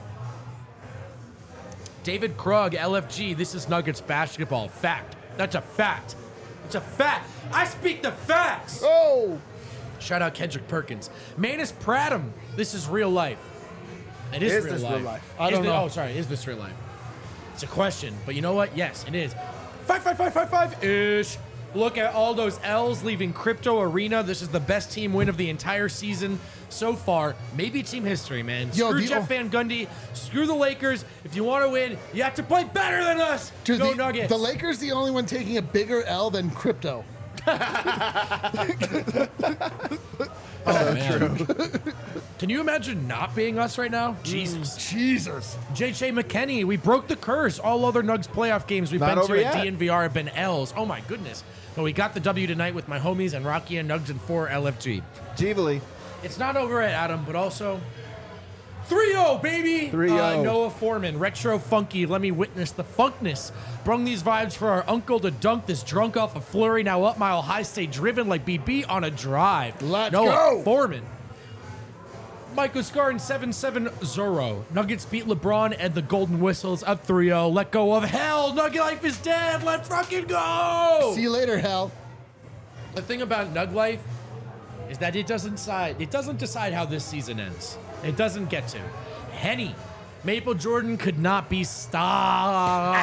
David Krug, LFG. This is Nuggets basketball. Fact. That's a fact. It's a fact. I speak the facts. Oh. Shout out Kendrick Perkins. Manus Pradham. This is real life. It is real this life. real life? I don't know. Oh, sorry. Is this real life? It's a question, but you know what? Yes, it is. 5-5-5-5-5-ish. Look at all those L's leaving Crypto Arena. This is the best team win of the entire season so far. Maybe team history, man. Yo, Screw the- Jeff Van Gundy. Screw the Lakers. If you want to win, you have to play better than us. Dude, Go the, Nuggets. the Lakers the only one taking a bigger L than crypto. Man. Can you imagine not being us right now? Jesus. Jesus. J.J. McKinney, we broke the curse. All other Nugs playoff games we've Not been over to yet. at DNVR have been L's. Oh my goodness. But we got the W tonight with my homies and Rocky and Nugs and 4 LFG. Jeevely. It's not over at Adam, but also 3-0, baby. 3-0. Noah Foreman, retro funky. Let me witness the funkness. Brung these vibes for our uncle to dunk this drunk off a flurry. Now up mile high, stay driven like BB on a drive. Let's Noah go. Foreman. Michael Scarn 7-7 Zorro. Nuggets beat LeBron and the Golden Whistles up 3-0. Let go of hell. Nugget life is dead. Let's fucking go. See you later, hell. The thing about Nug life is that it doesn't decide how this season ends. It doesn't get to. Henny. Maple Jordan could not be stopped.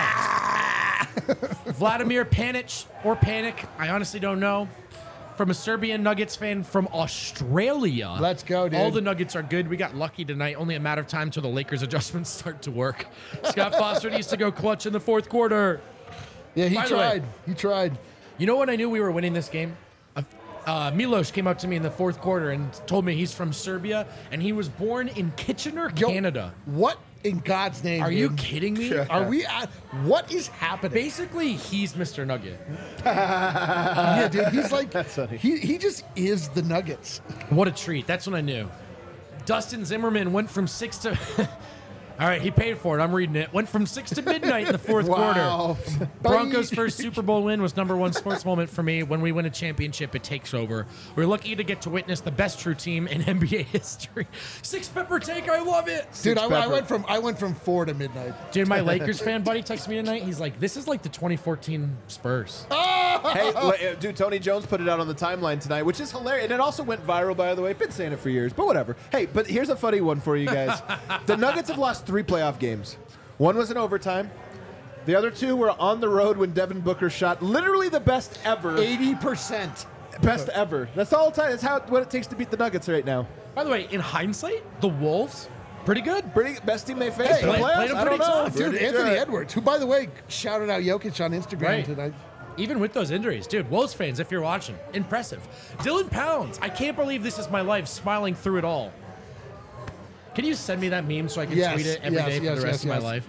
Vladimir Panic or Panic, I honestly don't know. From a Serbian Nuggets fan from Australia. Let's go, dude. All the Nuggets are good. We got lucky tonight. Only a matter of time till the Lakers adjustments start to work. Scott Foster needs to go clutch in the fourth quarter. Yeah, he By the way- tried. He tried. You know when I knew we were winning this game? Milos came up to me in the fourth quarter and told me he's from Serbia and he was born in Kitchener, Yo, Canada. What in God's name? Are you dude? kidding me? Are we at? What is happening? Basically, he's Mr. Nugget. Yeah, dude. He's like, funny. he just is the Nuggets. What a treat. That's when I knew. Dustin Zimmerman went from 6 to... All right, he paid for it. I'm reading it. Went from 6 to midnight in the fourth Wow. quarter. Broncos' first Super Bowl win was #1 sports moment for me. When we win a championship, it takes over. We're lucky to get to witness the best true team in NBA history. Six pepper take, I love it. Dude, I Pepper. went from 4 to midnight. Dude, my Lakers fan buddy texted me tonight. He's like, this is like the 2014 Spurs. Hey, dude, Tony Jones put it out on the timeline tonight, which is hilarious. And it also went viral, by the way. Been saying it for years, but whatever. Hey, but here's a funny one for you guys. The Nuggets have lost 3 playoff games. One was in overtime. The other 2 were on the road when Devin Booker shot literally the best ever. 80%. Best ever. That's all time. That's what it takes to beat the Nuggets right now. By the way, in hindsight, the Wolves, pretty good. Best team they faced in the Played playoffs. them I don't pretty know. tough. Dude, Pretty Anthony good. Edwards, who, by the way, shouted out Jokic on Instagram Right. tonight. Even with those injuries, dude, Wolves fans, if you're watching, impressive. Dylan Pounds, I can't believe this is my life, smiling through it all. Can you send me that meme so I can Yes, tweet it every day yes, for yes, the rest of yes, my yes. life?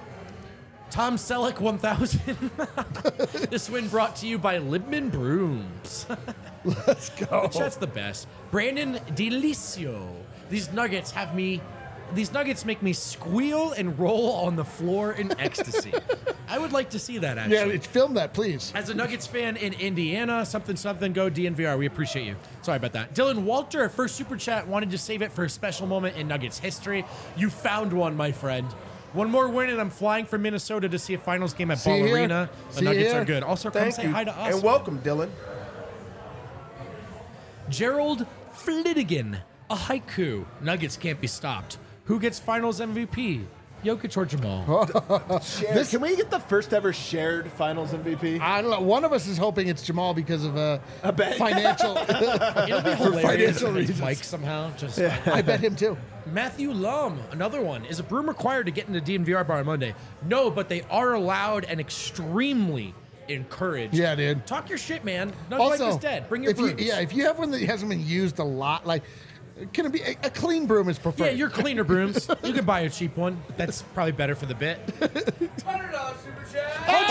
Tom Selleck 1000. This win brought to you by Libman Brooms. Let's go. Which that's the best. Brandon Delicio. These Nuggets make me squeal and roll on the floor in ecstasy. I would like to see that, actually. Yeah, film that, please. As a Nuggets fan in Indiana, something, go DNVR. We appreciate you. Sorry about that. Dylan Walter, first super chat, wanted to save it for a special moment in Nuggets history. You found one, my friend. One more win, and I'm flying from Minnesota to see a finals game at See Ball you here. Arena. The See you Nuggets here. are good. Also, come Thank say you. hi to us. And welcome, Dylan. Gerald Flitigan, a haiku. Nuggets can't be stopped. Who gets finals MVP? Jokic or Jamal? Can we get the first ever shared finals MVP? I don't know. One of us is hoping it's Jamal because of bet. financial. It'll be hilarious financial if it's reasons. Mike somehow. Just I bet him too. Matthew Lum, another one. Is a Broom required to get into DNVR bar on Monday? No, but they are allowed and extremely encouraged. Yeah, dude. Talk your shit, man. Nug life is dead. Bring your if you, brooms. if you have one that hasn't been used a lot, like Can it be a clean broom is preferred? Yeah, your cleaner brooms. You can buy a cheap one. That's probably better for the bit. $100 super chat.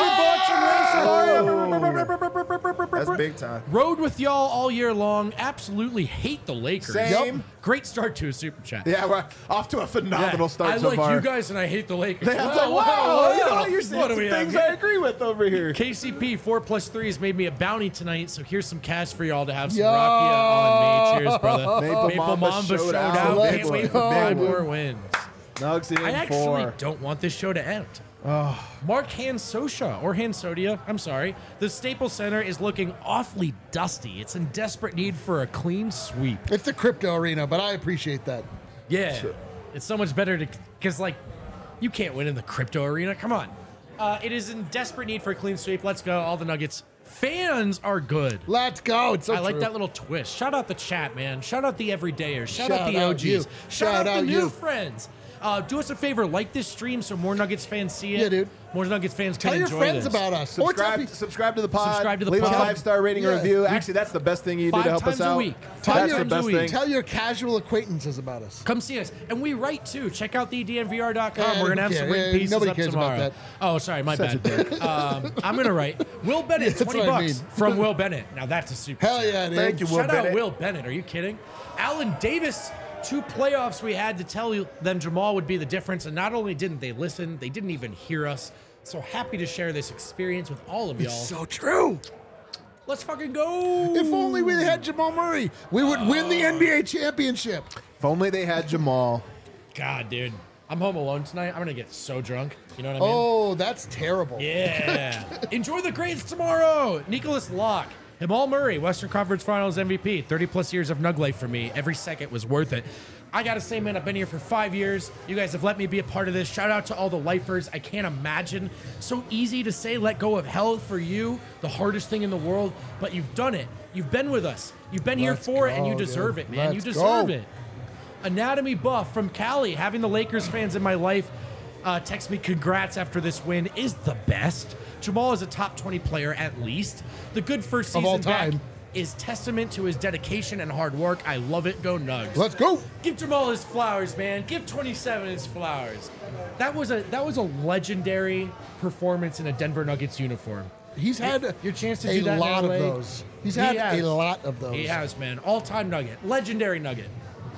That's big time. Rode with y'all all year long. Absolutely hate the Lakers. Same. Yep. Great start to a super chat. Yeah, we're off to a phenomenal start I so like far. you guys and I hate the Lakers. I was like, wow, you know, you're saying What do some we have things here? I agree with over here. KCP 4+3 has made me a bounty tonight, so here's some cash for y'all to have some rakia on me. Cheers, brother. Maple Mamba showed showed out. out. Can't Let's wait for go. 5 more wins. Nugs in I actually 4. don't want this show to end. Mark Hansosha, or Hansodia, I'm sorry. The Staples Center is looking awfully dusty. It's in desperate need for a clean sweep. It's the crypto arena, but I appreciate that. Yeah. It's so much better to, because, like, you can't win in the crypto arena. Come on. It is in desperate need for a clean sweep. Let's go. All the Nuggets fans are good. Let's go. It's so I like true. that little twist. Shout out the chat, man. Shout out the everydayers. Shout out Shout the out OGs. you. Shout Shout out the out new you. friends. Do us a favor, like this stream so more Nuggets fans see it. Yeah, dude. More Nuggets fans can Tell your enjoy friends this. about us. Or tell Subscribe to the pod. Subscribe to the Leave pod. a 5-star rating Yeah. and review. Actually, that's the best thing you do to 5 help us times a out. week. Tell That's your- the best week. thing. Tell your casual acquaintances about us. Come see us. And we write too. Check out the DNVR.com. Yeah, We're going to have who some cares? written pieces Nobody up cares about tomorrow. that. Oh, sorry. My Such a bad. I'm going to write Will Bennett, That's 20 what I bucks mean. from Will Bennett. Now that's a super Hell chat. yeah, dude. Thank you, Will Shout out Bennett. Will Bennett. Are you kidding? Alan Davis, 2 playoffs we had to tell them Jamal would be the difference. And not only didn't they listen, they didn't even hear us. So happy to share this experience with all of y'all. It's so true. Let's fucking go. If only we had Jamal Murray, we would win the NBA championship. If only they had Jamal. God, dude. I'm home alone tonight. I'm going to get so drunk. You know what I mean? Oh, that's terrible. Yeah. Enjoy the grades tomorrow. Nicholas Locke. Jamal Murray, Western Conference Finals MVP. 30-plus years of Nug life for me. Every second was worth it. I got to say, man, I've been here for 5 years. You guys have let me be a part of this. Shout out to all the lifers. I can't imagine. So easy to say let go of hell for you, the hardest thing in the world, but you've done it. You've been with us. You've been here Let's for it, and go, you deserve dude. it, man. You Let's deserve go. it. Anatomy Buff from Cali, having the Lakers fans in my life text me congrats after this win is the best. Jamal is a top 20 player at least. The good first Of all season back time. is testament to his dedication and hard work. I love it. Go Nugs. Let's go. Give Jamal his flowers, man. Give 27 his flowers. That was a legendary performance in a Denver Nuggets uniform. He's had Your chance to a do that in lot of LA. those. He's He had has. a lot of those. He has, man. All-time Nugget. Legendary Nugget.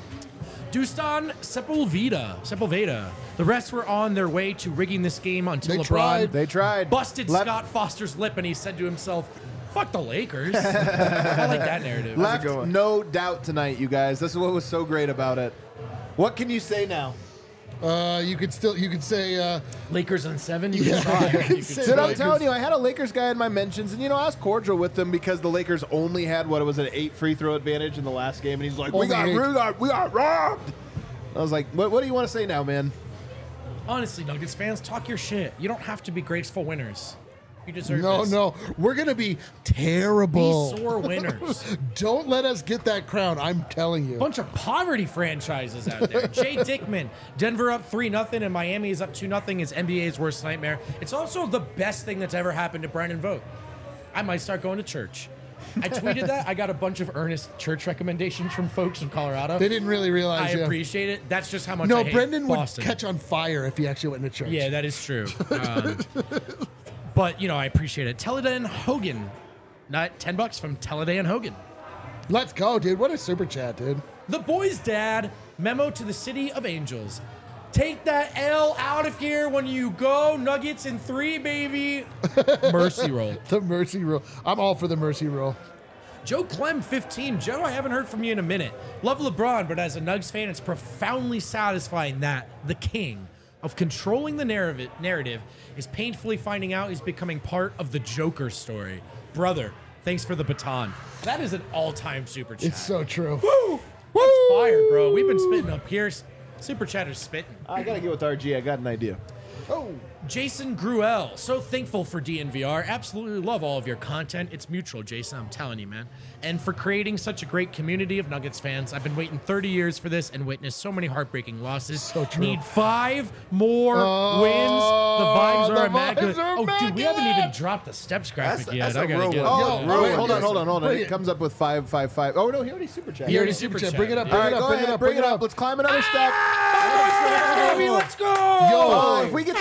Dustan Sepulveda. The refs were on their way to rigging this game until They LeBron tried. They tried. busted Left- Scott Foster's lip and he said to himself, fuck the Lakers. I like that narrative. Left going? no doubt tonight, you guys. This is what was so great about it. What can you say now? You could say Lakers on 7? You Yeah. can try. You can Say Dude, try. I'm telling you, I had a Lakers guy in my mentions, and I was cordial with them because the Lakers only had an 8 free throw advantage in the last game, and he's like, we Only got 8. we got robbed. I was like, what do you want to say now, man? Honestly, Nuggets fans, talk your shit. You don't have to be graceful winners. You deserve no, this. no. We're gonna be Be terrible. sore winners. Don't let us get that crown. I'm telling you. Bunch of poverty franchises out there. Jay Dickman, Denver up 3-0 and Miami is up 2-0 is NBA's worst nightmare. It's also the best thing that's ever happened to Brendan Vogt. I might start going to church. I tweeted that. I got a bunch of earnest church recommendations from folks in Colorado. They didn't really I realize. yeah. appreciate it. That's just how much I No, hate Brendan Boston. would catch on fire if he actually went to church. Yeah, that is true. But, I appreciate it. Teledan Hogan. Not $10 from Teledan Hogan. Let's go, dude. What a super chat, dude. The boy's dad, memo to the city of angels. Take that L out of here when you go. Nuggets in 3, baby. Mercy roll. The mercy rule. I'm all for the mercy rule. Joe Clem, 15. Joe, I haven't heard from you in a minute. Love LeBron, but as a Nugs fan, it's profoundly satisfying that the king of controlling the narrative is painfully finding out he's becoming part of the Joker story. Brother, thanks for the baton. That is an all-time super chat. It's so true. Woo! That's fire, bro. We've been spitting up here. Super chatter's spitting. I gotta get with RG. I got an idea. Oh. Jason Gruel, so thankful for DNVR. Absolutely love all of your content. It's mutual, Jason, I'm telling you, man. And for creating such a great community of Nuggets fans. I've been waiting 30 years for this and witnessed so many heartbreaking losses. So true. Need 5 more wins. The vibes are immaculate. Oh, dude, we haven't even dropped the steps graphic yet. that's I a gotta real get one. it. Oh, Yo, wait, yo, hold on. Bring It it. comes up with 555. Oh no, he already super chat. He already Super super chat. Bring it up. All Bring right, it up. go Bring it ahead, up. bring it up. Let's climb another step. Baby, let's go! Oh, if we get the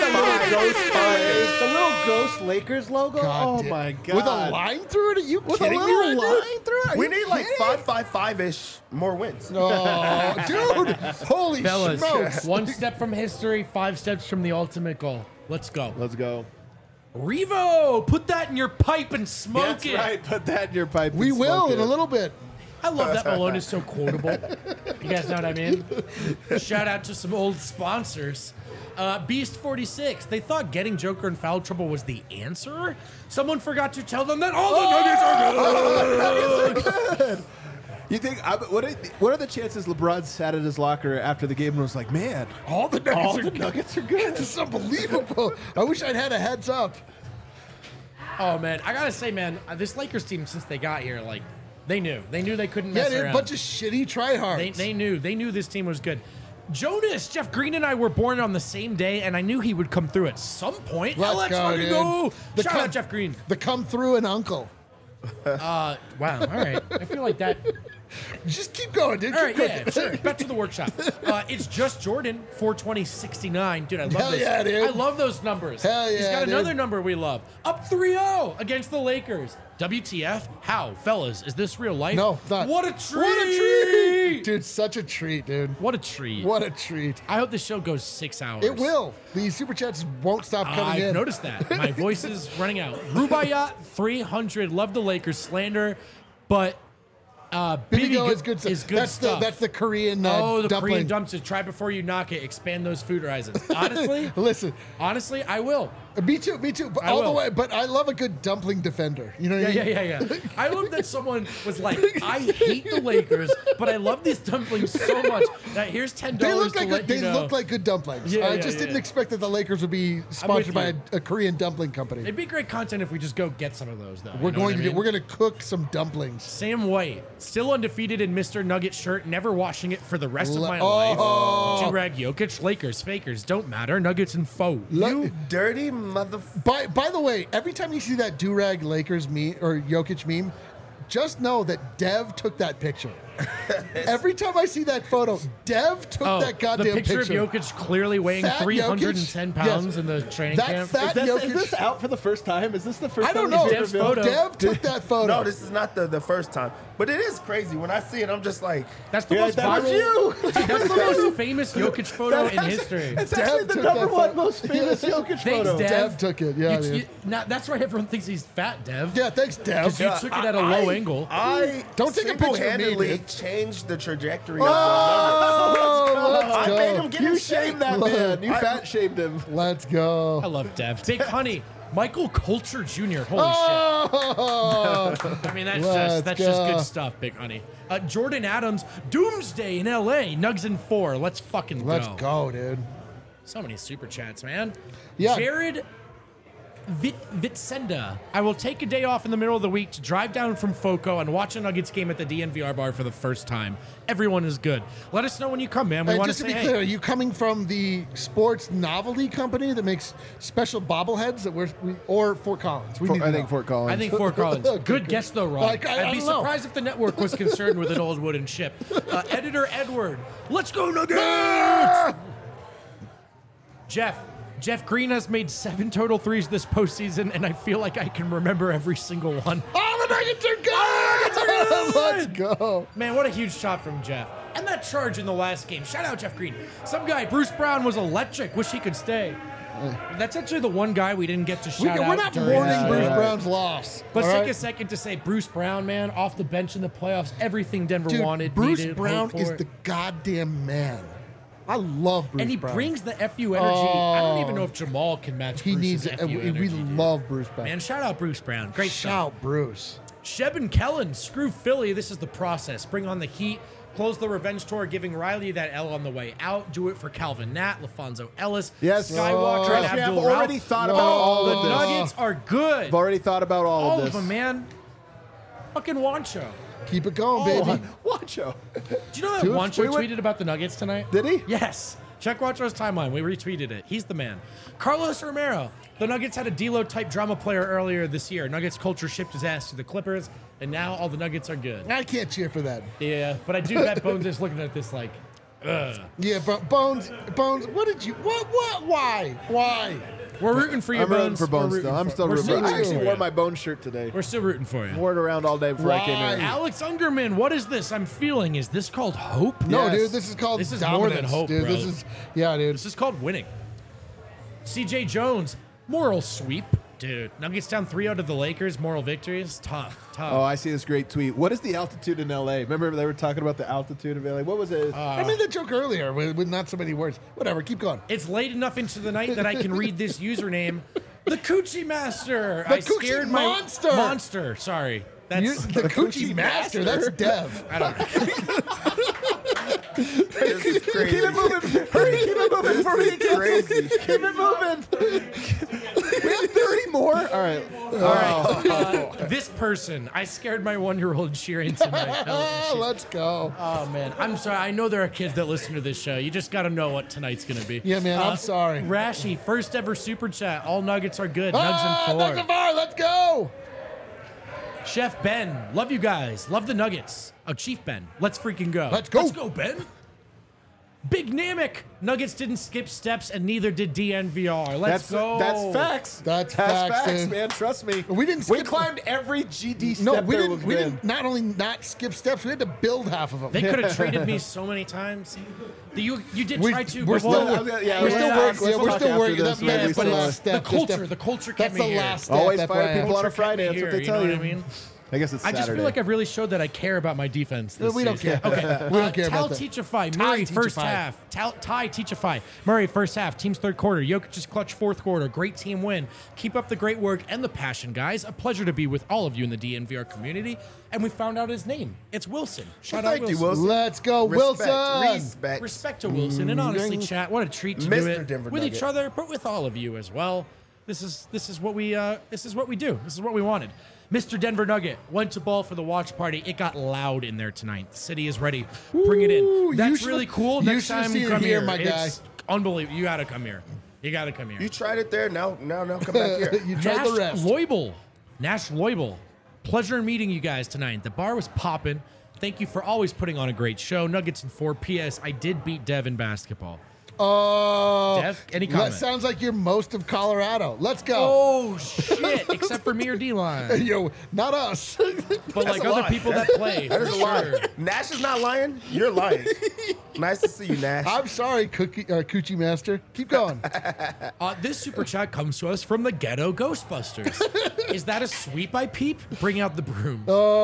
little ghost Lakers logo. God Oh damn. my god. With a line through it? Are you With a kidding me little right now? line through it? Are We you need like kidding? 555-ish more wins. Oh, dude. Holy Fellas, smokes. 1 step from history, 5 steps from the ultimate goal. Let's go. Let's go. Revo, put that in your pipe and smoke That's it. right. Put that in your pipe. We and will smoke in it. a little bit. I love that Malone is so quotable. You guys know what I mean? Shout out to some old sponsors. Beast46, they thought getting Joker in foul trouble was the answer. Someone forgot to tell them that all the Nuggets are good. You think? What are the chances LeBron sat at his locker after the game and was like, "Man, All the Nuggets are good. This is unbelievable. I wish I'd had a heads up. Oh, man. I got to say, man, this Lakers team, since they got here, like, they knew. They knew they couldn't Yeah, mess dude, around. bunch of shitty tryhards. They knew this team was good. Jonas, Jeff Green and I were born on the same day, and I knew he would come through at some point. Let's go, fucking dude. go. The Shout come- out Jeff Green. The come through and uncle. Wow, all right. I feel like that. Just keep going, dude. All Keep right, going. yeah, sure. Back to the workshop. It's just Jordan, 42069. Dude, I love Hell this. yeah, dude. I love those numbers. Hell He's yeah, got another dude. number we love. Up 3-0 against the Lakers. WTF? How? Fellas, is this real life? No, not. What a treat! What a treat! Dude, such a treat, dude. What a treat. What a treat. I hope this show goes 6 hours. It will. The super chats won't stop coming I've in. noticed that. My voice is running out. Rubaiyat 300. Love the Lakers slander, but Bibigo is good stuff. Is good that's stuff. that's the Korean oh, the dumpling. Korean dumps. Try before you knock it. Expand those food horizons. Honestly, Listen, honestly, I will. me too. But I all the will. way. But I love a good dumpling defender. You know what I Yeah, mean? yeah. I love that someone was like, I hate the Lakers, but I love these dumplings so much that here's $10 They look to like let they you know. look like good dumplings. Yeah, I yeah, just didn't yeah. expect that the Lakers would be sponsored by you. a Korean dumpling company. It'd be great content if we just go get some of those, though. We're You know what I mean? we're going to cook some dumplings. Sam White, still undefeated in Mr. Nugget shirt, never washing it for the rest of my Oh. life. Durag Jokic, Lakers, fakers, don't matter. Nuggets and foe. You dirty motherfucker. By the way, every time you see that Durag Lakers meme or Jokic meme, just know that Dev took that picture. Every time I see that photo, Dev took that goddamn the picture of Jokic clearly weighing Fat 310 Jokic? pounds Yes. in the training That camp. fat Jokic. Is this out for the first time? Is this the first I don't time know. he's Dev's ever been- photo. Dev took that photo. No, this is not the first time. But it is crazy. When I see it, I'm just like, That's the Yeah, most that was viral. you. That's the most famous Jokic photo in history. It's actually Dev the took number that one photo. most famous Jokic Thanks, photo. Dev. Dev took it. Yeah, dude. That's why everyone thinks he's fat, Dev. Yeah, thanks, Dev. Because you took it at a low angle. I Don't take a picture of me, single-handedly dude. changed the trajectory of the Oh, let's Nuggets. I made him go. get You in shape. shamed that man. You fat shamed him. Let's go. I love Dev. Big Honey, Michael Coulter Jr. Holy Oh, shit. I mean, that's Let's just go. good stuff, Big Honey. Jordan Adams, Doomsday in LA, Nugs in 4. Let's fucking let's go, dude. So many super chats, man. Yeah. Jared Vitsenda. I will take a day off in the middle of the week to drive down from FOCO and watch a Nuggets game at the DNVR bar for the first time. Everyone is good. Let us know when you come, man. We Hey, want just to say be hey. clear, are you coming from the sports novelty company that makes special bobbleheads or Fort Collins? We need to I think know. Fort Collins. I think Fort Collins. Okay, Good guess, though, Ron. Like, I I'd be don't know. surprised if the network was concerned with an old wooden ship. Editor Edward, let's go Nuggets! Jeff Green has made 7 total threes this postseason, and I feel like I can remember every single one. Oh, the Nuggets are good! Let's go. Man, what a huge shot from Jeff. And that charge in the last game. Shout out Jeff Green. Some guy, Bruce Brown, was electric. Wish he could stay. That's actually the one guy we didn't get to shout out. We're not during mourning this. Bruce right. Brown's loss. Let's all take right? a second to say Bruce Brown, man, off the bench in the playoffs. Everything Denver Dude, wanted, Bruce needed, Brown hoped is for. the goddamn man. I love Bruce And he Brown. brings the FU energy. I don't even know if Jamal can match He Bruce's needs it. FU We energy. dude. love Bruce Brown. Man, shout out Bruce Brown. Great stuff. Shout Bruce. Sheb and Kellen, screw Philly. This is the process. Bring on the Heat. Close the revenge tour, giving Riley that L on the way out. Do it for Calvin Nat, LaFonso Ellis, Yes. Skywalker, and Trust me, I've Abdul already Ralph. thought about all The of this. Nuggets are good. I've already thought about all All of of this. them, man. Fucking Wancho. Keep it going, baby. Wancho. Do you know that Do it. Wancho Wait. tweeted about the Nuggets tonight? Did he? Yes. Check Wancho's timeline. We retweeted it. He's the man. Carlos Romero. The Nuggets had a D-Lo type drama player earlier this year. Nuggets culture shipped his ass to the Clippers, and now all the Nuggets are good. I can't cheer for that. Yeah, but I do bet Bones is looking at this like, ugh. Yeah, but Bones, what did you? What? Why? We're rooting for you, I'm Bones. rooting for Bones We're still. rooting I'm for- still we're rooting. I rooting actually for wore you. my Bone shirt today. We're still rooting for you. Wore it around all day before I came Why? here. Alex Ungerman, what is this I'm feeling? Is this called hope? No, Yes. dude, this is called This is dominance, more than hope, dude. bro. This is dude. This is called winning. CJ Jones, moral sweep. Dude, Nuggets down 3-0 to the Lakers. Moral victories. Tough. Oh, I see this great tweet. What is the altitude in LA? Remember they were talking about the altitude of LA? What was it? I made the joke earlier with not so many words. Whatever, keep going. It's late enough into the night that I can read this username. The Coochie Master. The I Coochie scared Monster. my monster. Sorry. You're That's the Coochie Master. That's Dev. I don't know. This is crazy. Keep it moving. Hurry, keep it moving before we get Crazy. Keep it moving. We have 30 more? All right. This person. I scared my 1-year-old cheering tonight. Let's go. Oh man, I'm sorry. I know there are kids that listen to this show. You just got to know what tonight's gonna be. Yeah, man, I'm sorry. Rashi, first ever super chat. All Nuggets are good. Nugs Nuggets and 4. and 4. Let's go. Chef Ben, love you guys. Love the Nuggets. Oh, Chief Ben, let's freaking go. Let's go. Let's go, Ben. Big Namek. Nuggets didn't skip steps, and neither did DNVR. Let's go. That's facts. That's facts, dude. man. Trust me. We didn't We skip- climbed every GD step No, we there didn't. was We been. didn't. Not only not skip steps, we had to build half of them. They could have traded me so many times. You did We- try to. we're but still- well, we're we're still still working. working. Yeah, Let's we're talk still after working. this. That- yeah, that's but the it's last step. the Just culture. a- The culture That's kept me the here. last step. Always FYI. fire people on a Culture kept Friday. me That's what they here, tell you. you. Know what I mean? I guess it's I Saturday. just feel like I've really showed that I care about my defense. This We don't season. care. Okay. We don't care about that. Teachify. Murray Ty first Teachify. half. Ty Teachify. Murray first half. Team's third quarter. Jokic's clutch fourth quarter. Great team win. Keep up the great work and the passion, guys. A pleasure to be with all of you in the DNVR community. And we found out his name. It's Wilson. Shout out Thank you, Wilson. Wilson. Let's go, Respect. Wilson. Respect. Respect to Wilson, and honestly, chat. What a treat to do Mr. it Denver with each Nugget. other, but with all of you as well. This is what we do. This is what we wanted. Mr. Denver Nugget went to ball for the watch party. It got loud in there tonight. The city is ready. Bring it in. Ooh, you That's should- really cool. you Next should have time, seen it come here, here, my guy. It's unbelievable. You gotta come here. You gotta come here. You tried it there. Now come back here. You tried the rest. Nash Loibel. Pleasure meeting you guys tonight. The bar was popping. Thank you for always putting on a great show. Nuggets in 4. P.S. I did beat Dev in basketball. Oh, Dev, any that comment? sounds like you're most of Colorado. Let's go. Oh shit! Except for me or D-line, Yo, not us. but like a other lie. people that play. That for is a lie. sure. Nash is not lying. You're lying. Nice to see you, Nash. I'm sorry, Coochie Master. Keep going. This super chat comes to us from the Ghetto Ghostbusters. Is that a sweep I peep? Bring out the broom.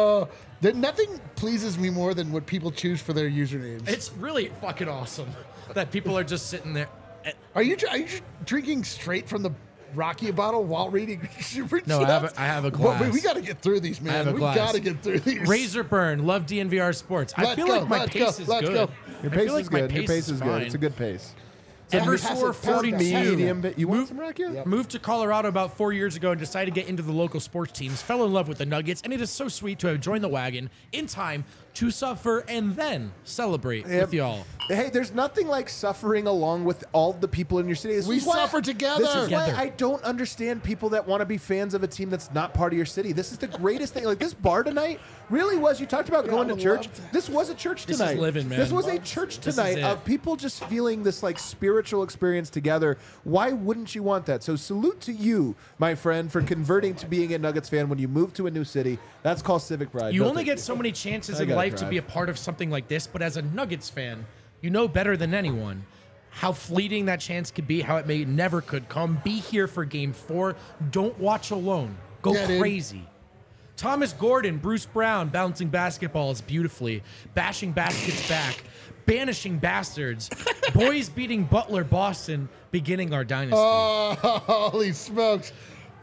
Nothing pleases me more than what people choose for their usernames. It's really fucking awesome that people are just sitting there. Are you drinking straight from the Rocky bottle while reading super No, I chats? have a Well, glass. we got to get through these, man. have a We glass. got to get through these. Razor Burn, love DNVR Sports. I Let's feel go, like my let's pace go, is let's good. go. Your I pace feel like is my good. Your pace is good. fine. It's a good pace. Eversor 42. Medium. You want some racket? Yep. Moved to Colorado about 4 years ago and decided to get into the local sports teams. Fell in love with the Nuggets, and it is so sweet to have joined the wagon in time to suffer and then celebrate Yep. with y'all. Hey, there's nothing like suffering along with all the people in your city. This We is why- suffer together. This is why Together. I don't understand people that want to be fans of a team that's not part of your city. This is the greatest thing. Like this bar tonight really was. You talked about going to would church. love This was a church This is tonight. living, man. This was a church This is tonight it. of people just feeling this like spiritual experience together. Why wouldn't you want that? So salute to you, my friend, for converting to being a Nuggets fan when you move to a new city. That's called civic pride. You Don't only think- get so many chances I in gotta life to drive. be a part of something like this, but as a Nuggets fan, you know better than anyone how fleeting that chance could be, how it may never could come. Be here for game 4. Don't watch alone. Go Yeah, dude. crazy. Thomas Gordon, Bruce Brown, bouncing basketballs beautifully, bashing baskets back, banishing bastards, boys beating Butler Boston, beginning our dynasty. Oh, holy smokes.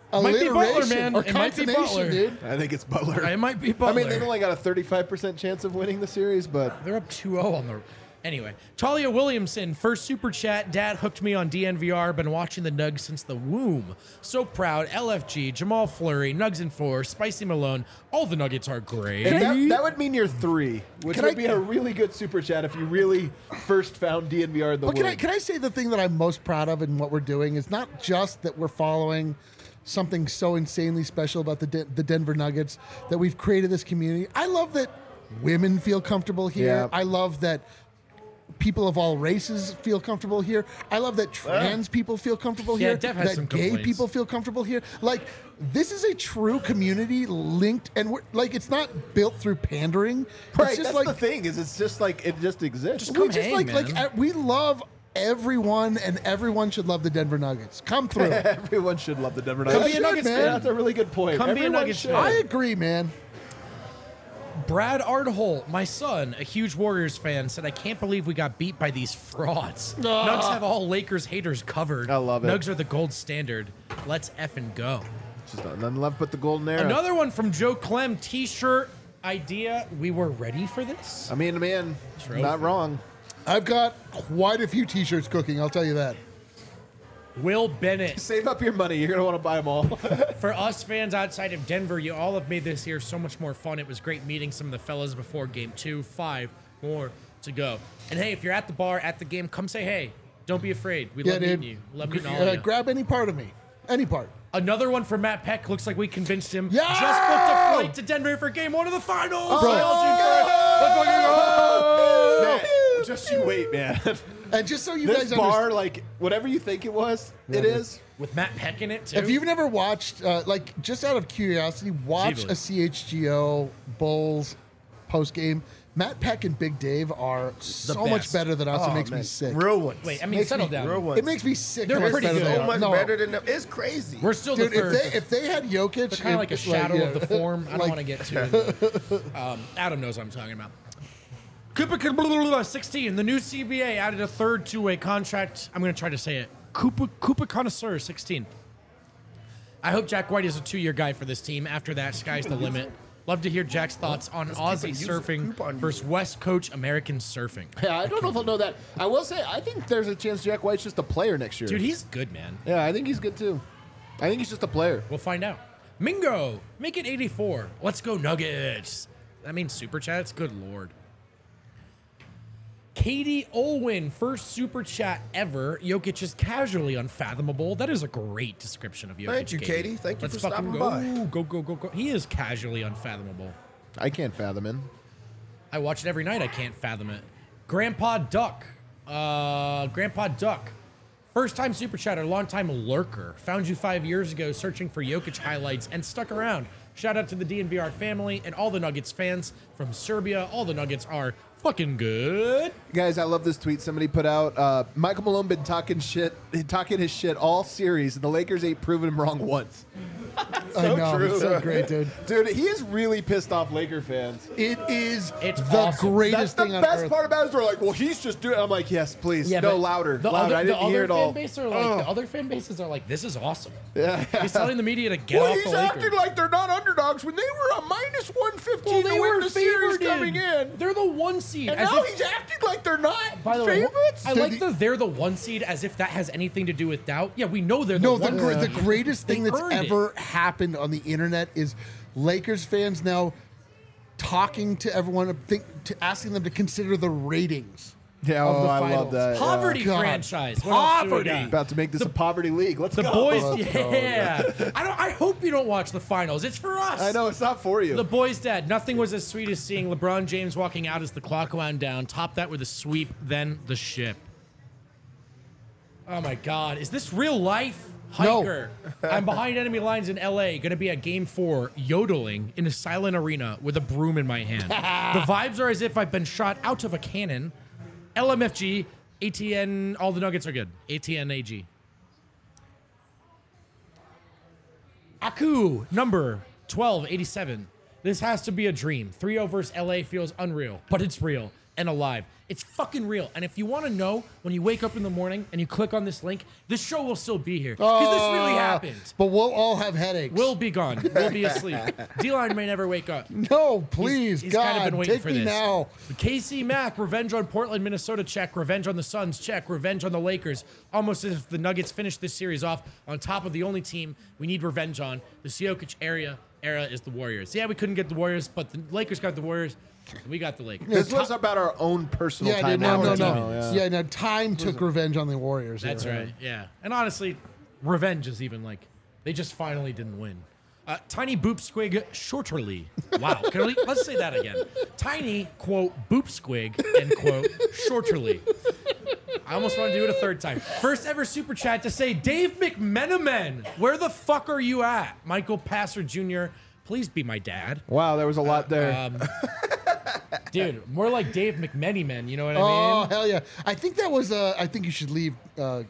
Might be Butler, alliteration man. or It might be contonation, Butler. dude. I think it's Butler. It might be I Butler. mean, they've only got a 35% chance of winning the series, but They're up 2-0 on the. Anyway, Talia Williamson, first super chat. Dad hooked me on DNVR. Been watching the Nugs since the womb. So proud. LFG, Jamal Fleury, Nugs and 4, Spicy Malone. All the Nuggets are great. and that would mean you're 3, which Can would I- be a really good super chat if you really first found DNVR in the But womb. can I say the thing that I'm most proud of in what we're doing is not just that we're following something so insanely special about the Denver Nuggets, that we've created this community. I love that women feel comfortable here. Yeah. I love that people of all races feel comfortable here. I love that trans people feel comfortable Yeah, here. Dev has that some gay complaints. people feel comfortable here. Like, this is a true community linked, and we're like, it's not built through pandering. Right, It's just that's like the thing is it's just like it just exists. Come we just hang, like man. we love everyone, and everyone should love the Denver Nuggets. Come through. Everyone should love the Denver Come Nuggets. be a Nuggets Yeah, fan. that's a really good point. Come be a Everyone Nuggets should. fan. I agree, man. Brad Ardholt, my son, a huge Warriors fan, said, I can't believe we got beat by these frauds. Nugs have all Lakers haters covered. I love it. Nugs are the gold standard. Let's effing go. Just nothing left but the golden era. Another one from Joe Clem, t-shirt idea. We were ready for this. I mean, man, Trophy. not wrong. I've got quite a few T-shirts cooking. I'll tell you that. Will Bennett. Save up your money. You're gonna want to buy them all. For us fans outside of Denver, you all have made this year so much more fun. It was great meeting some of the fellas before game 2. 5 more to go. And hey, if you're at the bar, at the game, come say hey. Don't be afraid. We love meeting you. Love meeting all of you. Grab any part of me. Any part. Another one from Matt Peck. Looks like we convinced him. Yeah! Just booked a flight to Denver for game 1 of the finals. Bro. Man, just you wait, man. And just so you This guys bar, understand, like whatever you think it was, it is. With Matt Peck in it, too. if you've never watched, like, just out of curiosity, watch a CHGO Bulls post game. Matt Peck and Big Dave are so much best. better than us. It makes me man. sick. Real ones. Wait, I mean, Makes settle me- down. real ones. It makes me sick. They're how much pretty better good. they so are. much No. better than them. It's crazy. We're still Dude, the third. if they had Jokic, They're kind of like a shadow yeah. of the form. I don't Like- want to get too. Adam knows what I'm talking about. Koopa 16. The new CBA added a third two-way contract. I'm going to try to say it. Koopa Connoisseur 16. I hope Jack White is a 2-year guy for this team. After that, sky's the limit. Love to hear Jack's thoughts on Aussie use it. surfing Coupon use versus West Coast American surfing. Yeah, I don't know if I'll know that. I will say, I think there's a chance Jack White's just a player next year. Dude, he's good, man. Yeah, I think he's good too. I think he's just a player. We'll find out. Mingo, make it 84. Let's go Nuggets. That means super chats? Good Lord. Katie Olwyn, first super chat ever. Jokic is casually unfathomable. That is a great description of Jokic. Thank you, Katie. Thank you Let's for fucking stopping go. by. Go. He is casually unfathomable. I can't fathom him. I watch it every night. I can't fathom it. Grandpa Duck. First time super chatter, long time lurker. Found you 5 years ago searching for Jokic highlights and stuck around. Shout out to the DNVR family and all the Nuggets fans from Serbia. All the Nuggets are fucking good. Guys, I love this tweet somebody put out. Michael Malone been talking his shit all series, and the Lakers ain't proven him wrong once. I know. true. It's so great, dude. Dude, he is really pissed off Laker fans. It is It's the awesome. greatest That's the thing on best earth. part about it is they're like, well, he's just doing it. I'm like, yes, please. No, but louder. The Louder. other, I didn't the hear other it all. fan base are like, the other fan bases are like, this is awesome. Yeah. He's telling the media to get Well, off he's the Lakers. acting like they're not underdogs when they were a minus 115 to win the series coming in. They're the 1 seed. And as now if- he's acting like they're not By the way, favorites. I like they're the 1 seed as if that has anything to do with doubt. Yeah, we know they're the No, 1 the seed. greatest thing They that's earned it. ever happened on the internet is Lakers fans now talking to everyone, asking them to consider the ratings. Yeah, of the I finals. love that. Poverty God. franchise. What else do we Poverty. got? About to make this a poverty league. Let's The go. boys, Let's go. yeah. I hope you don't watch the finals. It's for us. I know it's not for you. The boys' dad. Nothing was as sweet as seeing LeBron James walking out as the clock wound down. Top that with a sweep, then the ship. Oh my God! Is this real life? No. Hiker. I'm behind enemy lines in LA. Going to be at Game 4, yodeling in a silent arena with a broom in my hand. The vibes are as if I've been shot out of a cannon. LMFG, ATN. All the Nuggets are good. ATN AG. Aku, number 1287. This has to be a dream. 3-0 versus LA feels unreal, but it's real. and alive. It's fucking real. And if you want to know, when you wake up in the morning and you click on this link, this show will still be here. Because this really happened. But we'll all have headaches. We'll be gone. We'll be asleep. D-Line may never wake up. No, please, He's God, kind of been waiting take for me this. now. KC Mack, revenge on Portland, Minnesota, check. Revenge on the Suns, check. Revenge on the Lakers. Almost as if the Nuggets finished this series off on top of the only team we need revenge on. The Jokic era is the Warriors. Yeah, we couldn't get the Warriors, but the Lakers got the Warriors. We got the Lakers. This was about our own personal Yeah, time. dude, no. Yeah. Yeah, no, time took revenge on the Warriors. That's yeah. right. Yeah. And honestly, revenge is even like, they just finally didn't win. Tiny Boop Squig Shorterly. Wow. Let's say that again. Tiny, quote, Boop Squig, end quote, Shorterly. I almost want to do it a third time. First ever super chat to say, Dave McMenamin, where the fuck are you at? Michael Passer Jr., please be my dad. Wow, there was a lot there. Dude, more like Dave McMenamin, you know what I Oh, mean? hell yeah. I think that was, I think you should leave.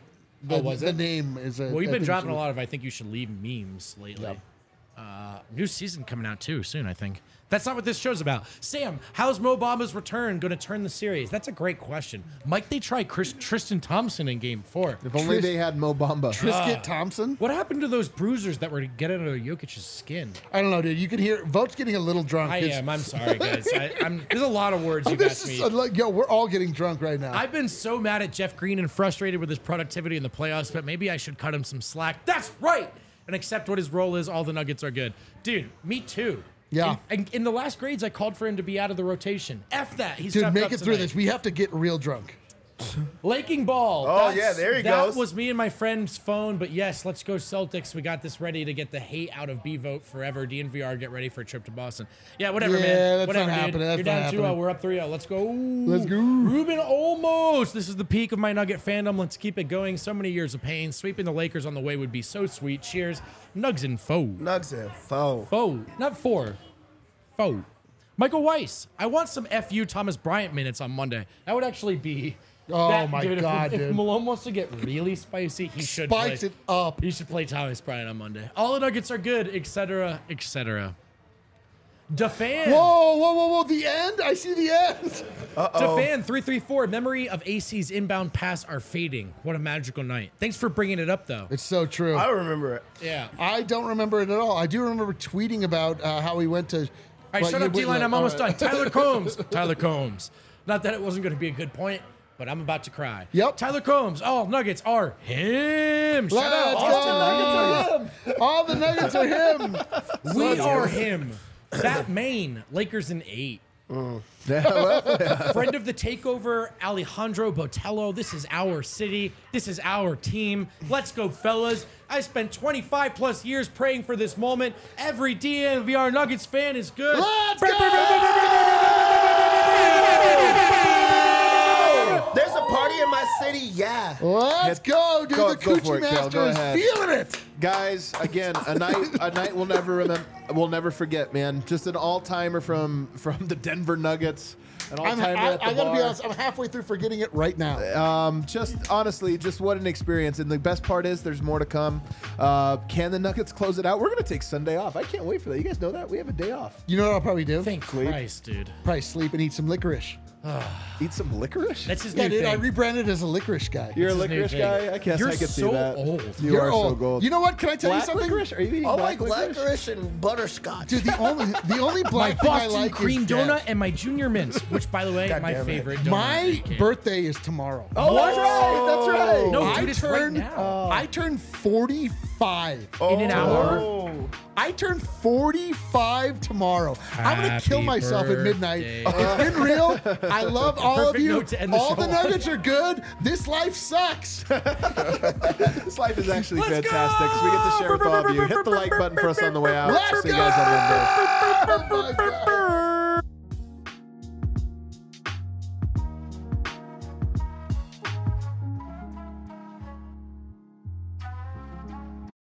Was the it? name is a. Well, you've been dropping a lot of I think you should leave memes lately. Yep. New season coming out too soon, I think. That's not what this show's about. Sam, how's Mo Bamba's return going to turn the series? That's a great question. Might they try Tristan Thompson in Game 4? If only they had Mo Bamba. Trisket Thompson? What happened to those bruisers that were getting under Jokic's skin? I don't know, dude. You can hear Vote's getting a little drunk. I It's- am. I'm sorry, guys. There's a lot of words you've This asked is me. like, yo, we're all getting drunk right now. I've been so mad at Jeff Green and frustrated with his productivity in the playoffs, but maybe I should cut him some slack. That's right! And accept what his role is. All the Nuggets are good. Dude, me too. Yeah. In the last grades, I called for him to be out of the rotation. F that. He's Dude, stepped make up it through tonight. this. We have to get real drunk. Laking ball. Oh, yeah, there he that goes. was me and my friend's phone, but yes, let's go Celtics. We got this ready to get the hate out of B-Vote forever. DNVR, get ready for a trip to Boston. Yeah, whatever, Yeah, man. that's Whatever, not dude. happening. That's You're not down 2-0. happening. We're up 3-0. Let's go. Let's go. Ruben Olmos. This is the peak of my Nugget fandom. Let's keep it going. So many years of pain. Sweeping the Lakers on the way would be so sweet. Cheers. Nugs and foe. Nugs and foe. Foe. Not four. Foe. Michael Weiss. I want some FU Thomas Bryant minutes on Monday. That would actually be... Oh, my dude, God, if dude. Malone wants to get really spicy, he should Spikes play. it up. He should play Thomas Bryant on Monday. All the Nuggets are good, etc., etc. DeFan. Whoa. The end? I see the end. DeFan 334. Memory of AC's inbound pass are fading. What a magical night. Thanks for bringing it up, though. It's so true. I remember it. Yeah. I don't remember it at all. I do remember tweeting about how we went to. All right, shut up, D-Line. I'm almost done. Tyler Combs. Tyler Combs. Not that it wasn't going to be a good point, but I'm about to cry. Yep. Tyler Combs. All Nuggets are him. Shout out. Let's Austin go. All the Nuggets are him. We are him. That Maine. Lakers in 8. Friend of the takeover, Alejandro Botello. This is our city. This is our team. Let's go, fellas. I spent 25 plus years praying for this moment. Every DNVR Nuggets fan is good. Let's There's a party in my city, yeah. Let's go, dude. Go- The go for Coochie it, Kel. Master Go is ahead. feeling it. Guys, again, a night we'll never remember. We'll never forget, man. Just an all-timer from the Denver Nuggets. An all-timer at the I gotta be bar. honest. I'm halfway through forgetting it right now. Just honestly, just what an experience. And the best part is there's more to come. Can the Nuggets close it out? We're going to take Sunday off. I can't wait for that. You guys know that? We have a day off. You know what I'll probably do? Thank Christ, dude. Probably sleep and eat some licorice. Eat some licorice? That's his Yeah, new dude. I thing. rebranded as a licorice guy. You're a his new licorice thing. guy? I guess You're I could see so that. old. You You're are old. so gold. You know what? Can I tell Black you something? licorice? Are you eating I black like licorice? licorice and butterscotch. Dude, the only My black thing I Boston like cream is donut Dev. and my junior mints, which, by the way, God my damn it. favorite donut. My Okay. birthday is tomorrow. Oh, that's right. That's right. No, I dude, it's right turned now. I turned 45. In an hour? Oh. I turn 45 tomorrow. I'm gonna Happy kill myself at midnight. birthday. It's been real. I love all of Perfect you. note to end the All show the Nuggets are good. This life sucks. This life is actually Let's fantastic because we get to share with all of you. Hit the like button for us on the way out. Let's See you guys on Monday. Oh my God.